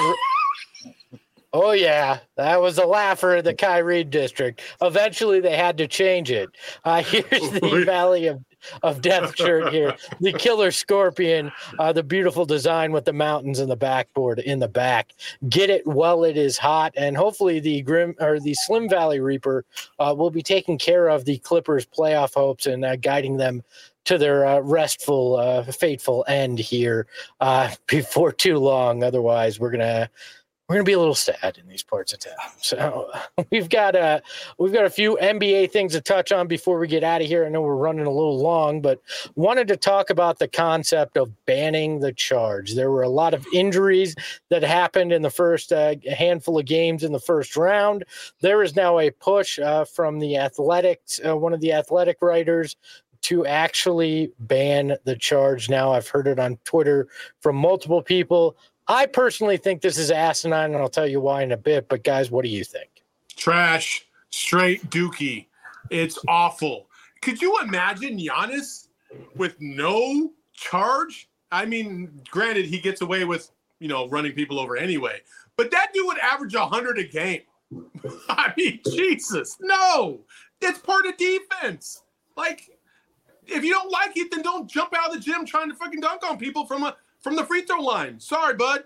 oh yeah, that was a laugher in the Kyrene district. Eventually, they had to change it. Uh, here's the Valley of of Death shirt here, the Killer Scorpion, uh, the beautiful design with the mountains and the backboard in the back. Get it while it is hot, and hopefully the Grim or the Slim Valley Reaper uh, will be taking care of the Clippers' playoff hopes and uh, guiding them to their uh, restful, uh, fateful end here uh, before too long. Otherwise, we're gonna. We're gonna be a little sad in these parts of town. So we've got a we've got a few N B A things to touch on before we get out of here. I know we're running a little long, but wanted to talk about the concept of banning the charge. There were a lot of injuries that happened in the first uh, handful of games in the first round. There is now a push uh, from the Athletics, uh, one of the Athletic writers, to actually ban the charge. Now I've heard it on Twitter from multiple people. I personally think this is asinine, and I'll tell you why in a bit. But, guys, what do you think? Trash. Straight dookie. It's awful. Could you imagine Giannis with no charge? I mean, granted, he gets away with, you know, running people over anyway. But that dude would average one hundred a game. I mean, Jesus. No. It's part of defense. Like, if you don't like it, then don't jump out of the gym trying to fucking dunk on people from a from the free throw line. Sorry, bud.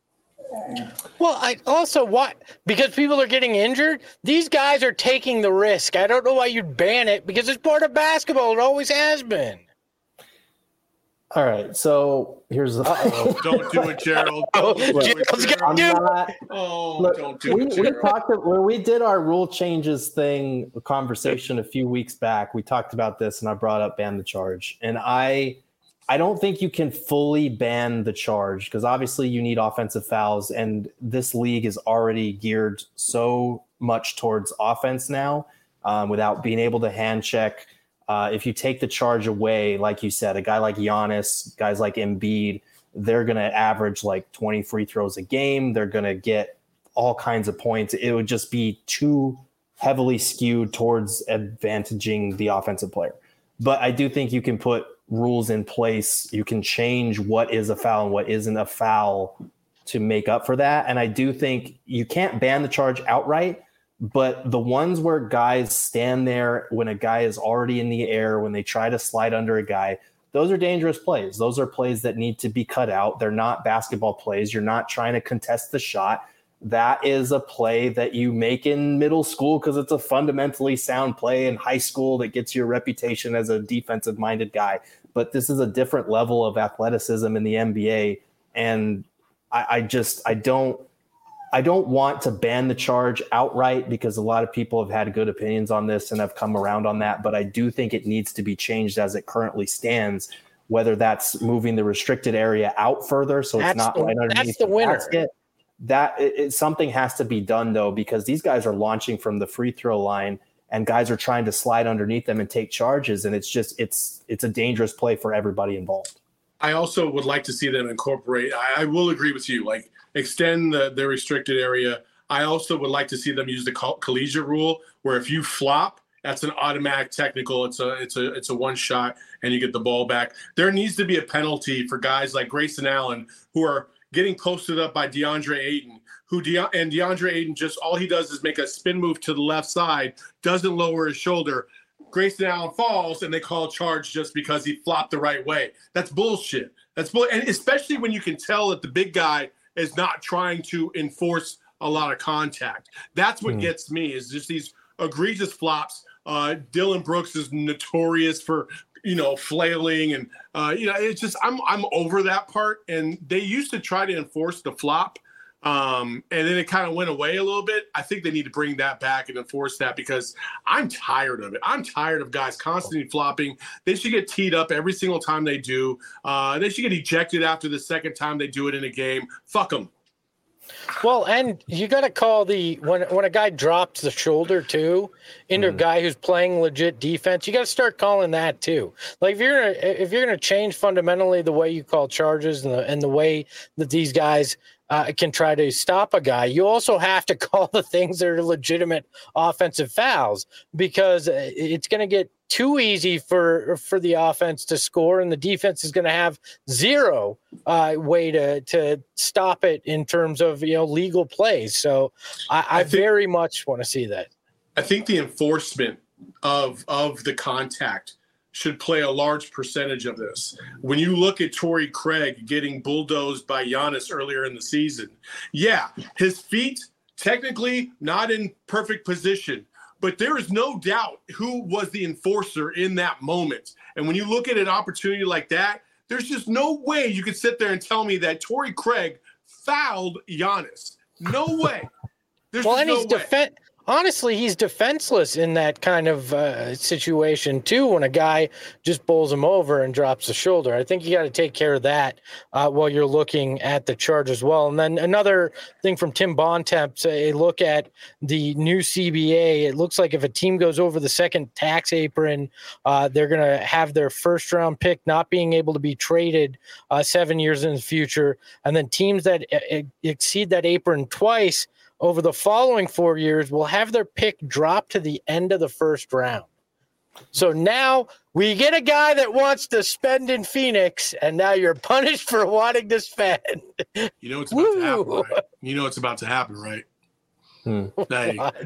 Well, I also what because people are getting injured. These guys are taking the risk. I don't know why you'd ban it because it's part of basketball. It always has been. All right, so here's the. Uh-oh. Don't do it, Gerald. Oh, Don't do it, Gerald's Gerald. gonna do not, Oh, look, don't do we, it, we Gerald. talked when we did our rule changes thing conversation a few weeks back. We talked about this, and I brought up ban the charge, and I. I don't think you can fully ban the charge because obviously you need offensive fouls, and this league is already geared so much towards offense now. um, without being able to hand check. Uh, if you take the charge away, like you said, a guy like Giannis, guys like Embiid, they're going to average like twenty free throws a game. They're going to get all kinds of points. It would just be too heavily skewed towards advantaging the offensive player. But I do think you can put rules in place. You can change what is a foul and what isn't a foul to make up for that. And I do think you can't ban the charge outright, but the ones where guys stand there when a guy is already in the air, when they try to slide under a guy, those are dangerous plays. Those are plays that need to be cut out. They're not basketball plays. You're not trying to contest the shot. That is a play that you make in middle school because it's a fundamentally sound play in high school that gets your reputation as a defensive-minded guy. But this is a different level of athleticism in the N B A, and I, I just I don't I don't want to ban the charge outright because a lot of people have had good opinions on this and have come around on that. But I do think it needs to be changed as it currently stands, whether that's moving the restricted area out further so it's That's not the- right underneath that's the the winner. basket. That it, it, something has to be done, though, because these guys are launching from the free throw line and guys are trying to slide underneath them and take charges. And it's just it's it's a dangerous play for everybody involved. I also would like to see them incorporate. I, I will agree with you, like extend the, the restricted area. I also would like to see them use the coll- collegiate rule, where if you flop, that's an automatic technical. It's a it's a it's a one shot, and you get the ball back. There needs to be a penalty for guys like Grayson Allen who are getting posted up by DeAndre Ayton, who De- and DeAndre Ayton just all he does is make a spin move to the left side, doesn't lower his shoulder. Grayson Allen falls, and they call a charge just because he flopped the right way. That's bullshit. That's bull, and especially when you can tell that the big guy is not trying to enforce a lot of contact. That's what mm. gets me is just these egregious flops. Uh, Dylan Brooks is notorious for, you know, flailing and, uh, you know, it's just, I'm, I'm over that part. And they used to try to enforce the flop. Um, and then it kind of went away a little bit. I think they need to bring that back and enforce that because I'm tired of it. I'm tired of guys constantly flopping. They should get teed up every single time they do. Uh, they should get ejected after the second time they do it in a game. Fuck them. Well, and you got to call the when when a guy drops the shoulder too into mm. a guy who's playing legit defense, you got to start calling that too. Like if you're gonna, if you're going to change fundamentally the way you call charges and the and the way that these guys uh, can try to stop a guy, you also have to call the things that are legitimate offensive fouls because it's going to get too easy for for the offense to score, and the defense is going to have zero uh, way to to stop it in terms of you know legal plays. So I, I, I think, very much want to see that. I think the enforcement of of the contact should play a large percentage of this. When you look at Torrey Craig getting bulldozed by Giannis earlier in the season, yeah, his feet technically not in perfect position. But there is no doubt who was the enforcer in that moment. And when you look at an opportunity like that, there's just no way you could sit there and tell me that Torrey Craig fouled Giannis. No way. There's well, just and no he's way. Defen- honestly, he's defenseless in that kind of uh, situation, too, when a guy just bowls him over and drops the shoulder. I think you got to take care of that uh, while you're looking at the charge as well. And then another thing from Tim Bontemps, a look at the new C B A. It looks like if a team goes over the second tax apron, uh, they're going to have their first round pick not being able to be traded uh, seven years in the future. And then teams that uh, exceed that apron twice over the following four years will have their pick drop to the end of the first round. So now we get a guy that wants to spend in Phoenix, and now you're punished for wanting to spend. You know what's about Woo. to happen, right? You know what's about to happen, right? Hmm. Hey, uh,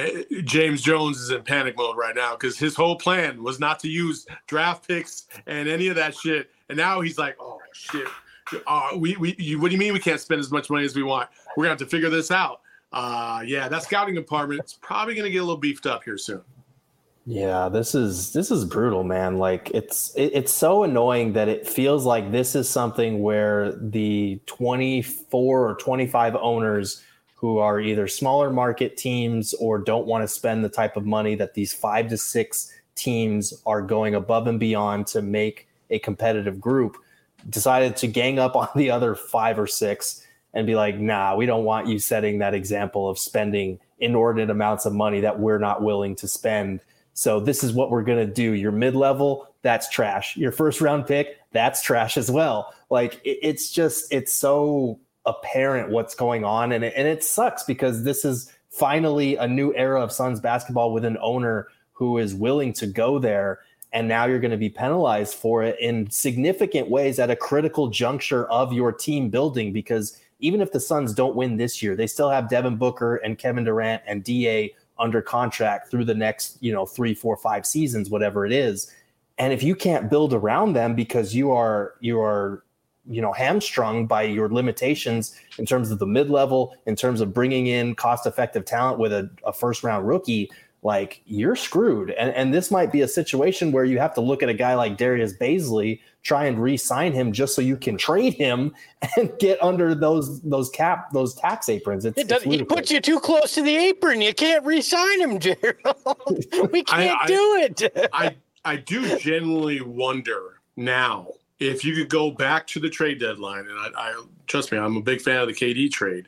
James Jones is in panic mode right now because his whole plan was not to use draft picks and any of that shit. And now he's like, oh, shit. Uh, we, we, you, what do you mean we can't spend as much money as we want? We're going to have to figure this out. Uh, yeah, that scouting department is probably going to get a little beefed up here soon. Yeah, this is this is brutal, man. Like it's it, it's so annoying that it feels like this is something where the twenty-four or twenty-five owners who are either smaller market teams or don't want to spend the type of money that these five to six teams are going above and beyond to make a competitive group decided to gang up on the other five or six and be like, nah, we don't want you setting that example of spending inordinate amounts of money that we're not willing to spend. So this is what we're going to do. Your mid-level, that's trash. Your first round pick, that's trash as well. Like it, it's just, it's so apparent what's going on. And it, and it sucks because this is finally a new era of Suns basketball with an owner who is willing to go there. And now you're going to be penalized for it in significant ways at a critical juncture of your team building, because even if the Suns don't win this year, they still have Devin Booker and Kevin Durant and D A under contract through the next, you know, three, four, five seasons, whatever it is. And if you can't build around them because you are, you are, you know, hamstrung by your limitations in terms of the mid-level, in terms of bringing in cost-effective talent with a, a first-round rookie, like you're screwed. And, and this might be a situation where you have to look at a guy like Darius Baisley, try and re-sign him just so you can trade him and get under those those cap those tax aprons. It's, it does, it's he puts you too close to the apron. You can't re-sign him, Gerald. We can't I, I, do it. I I do genuinely wonder now if you could go back to the trade deadline, and I, I trust me, I'm a big fan of the K D trade.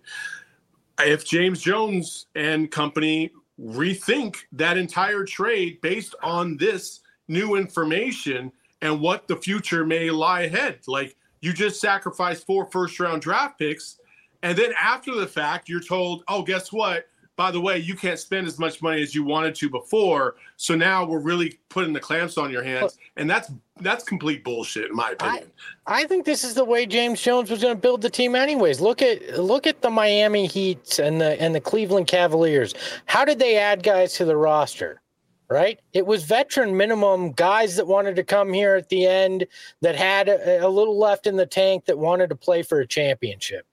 If James Jones and company rethink that entire trade based on this new information and what the future may lie ahead. Like, you just sacrificed four first round draft picks, and then after the fact, you're told, oh, guess what? By the way, you can't spend as much money as you wanted to before. So now we're really putting the clamps on your hands. And that's that's complete bullshit, in my opinion. I, I think this is the way James Jones was going to build the team anyways. Look at look at the Miami Heat and the and the Cleveland Cavaliers. How did they add guys to the roster? Right? It was veteran minimum guys that wanted to come here at the end, that had a, a little left in the tank, that wanted to play for a championship.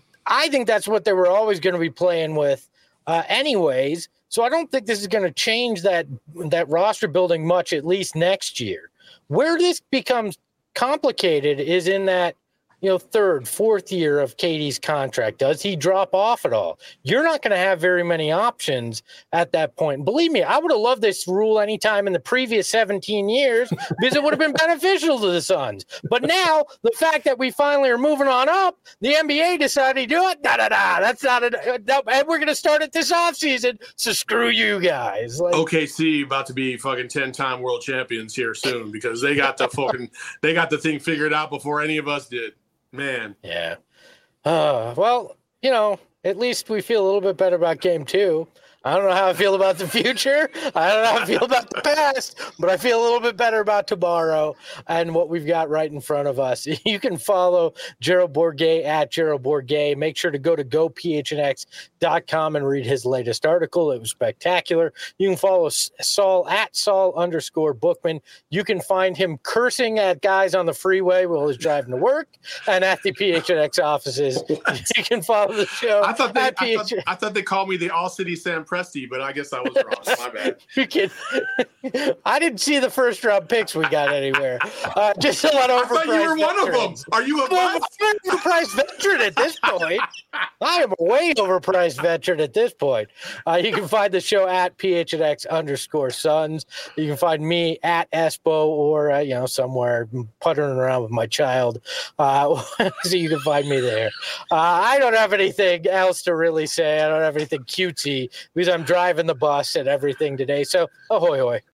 I think that's what they were always going to be playing with uh, anyways. So I don't think this is going to change that that roster building much, at least next year. Where this becomes complicated is in that, you know, third, fourth year of K D's contract. Does he drop off at all? You're not going to have very many options at that point. Believe me, I would have loved this rule anytime in the previous seventeen years because it would have been beneficial to the Suns. But now the fact that we finally are moving on up, the N B A decided to do it. Da da da. That's not a. And we're going to start it this offseason. So screw you guys. Like, O K C about to be fucking ten-time world champions here soon because they got the fucking they got the thing figured out before any of us did. Man. Yeah. Uh, well, you know, at least we feel a little bit better about game two. I don't know how I feel about the future. I don't know how I feel about the past, but I feel a little bit better about tomorrow and what we've got right in front of us. You can follow Gerald Bourguet at Gerald Bourguet. Make sure to go to go p h n x dot com and read his latest article. It was spectacular. You can follow Saul at Saul underscore Bookman. You can find him cursing at guys on the freeway while he's driving to work and at the P H N X offices. You can follow the show. I thought they, at I thought, I thought they called me the All City Sam Presti, but I guess I was wrong. My bad. You can, I didn't see the first round picks we got anywhere. Uh, just a lot of overpriced I thought you were one veterans. of them. Are you a Well, bust? I'm an overpriced veteran at this point. I am a way overpriced veteran at this point. Uh, you can find the show at P H N X underscore Suns. You can find me at Espo or, uh, you know, somewhere puttering around with my child. Uh, so you can find me there. Uh, I don't have anything else to really say. I don't have anything cutesy because I'm driving the bus and everything today. So ahoy hoy.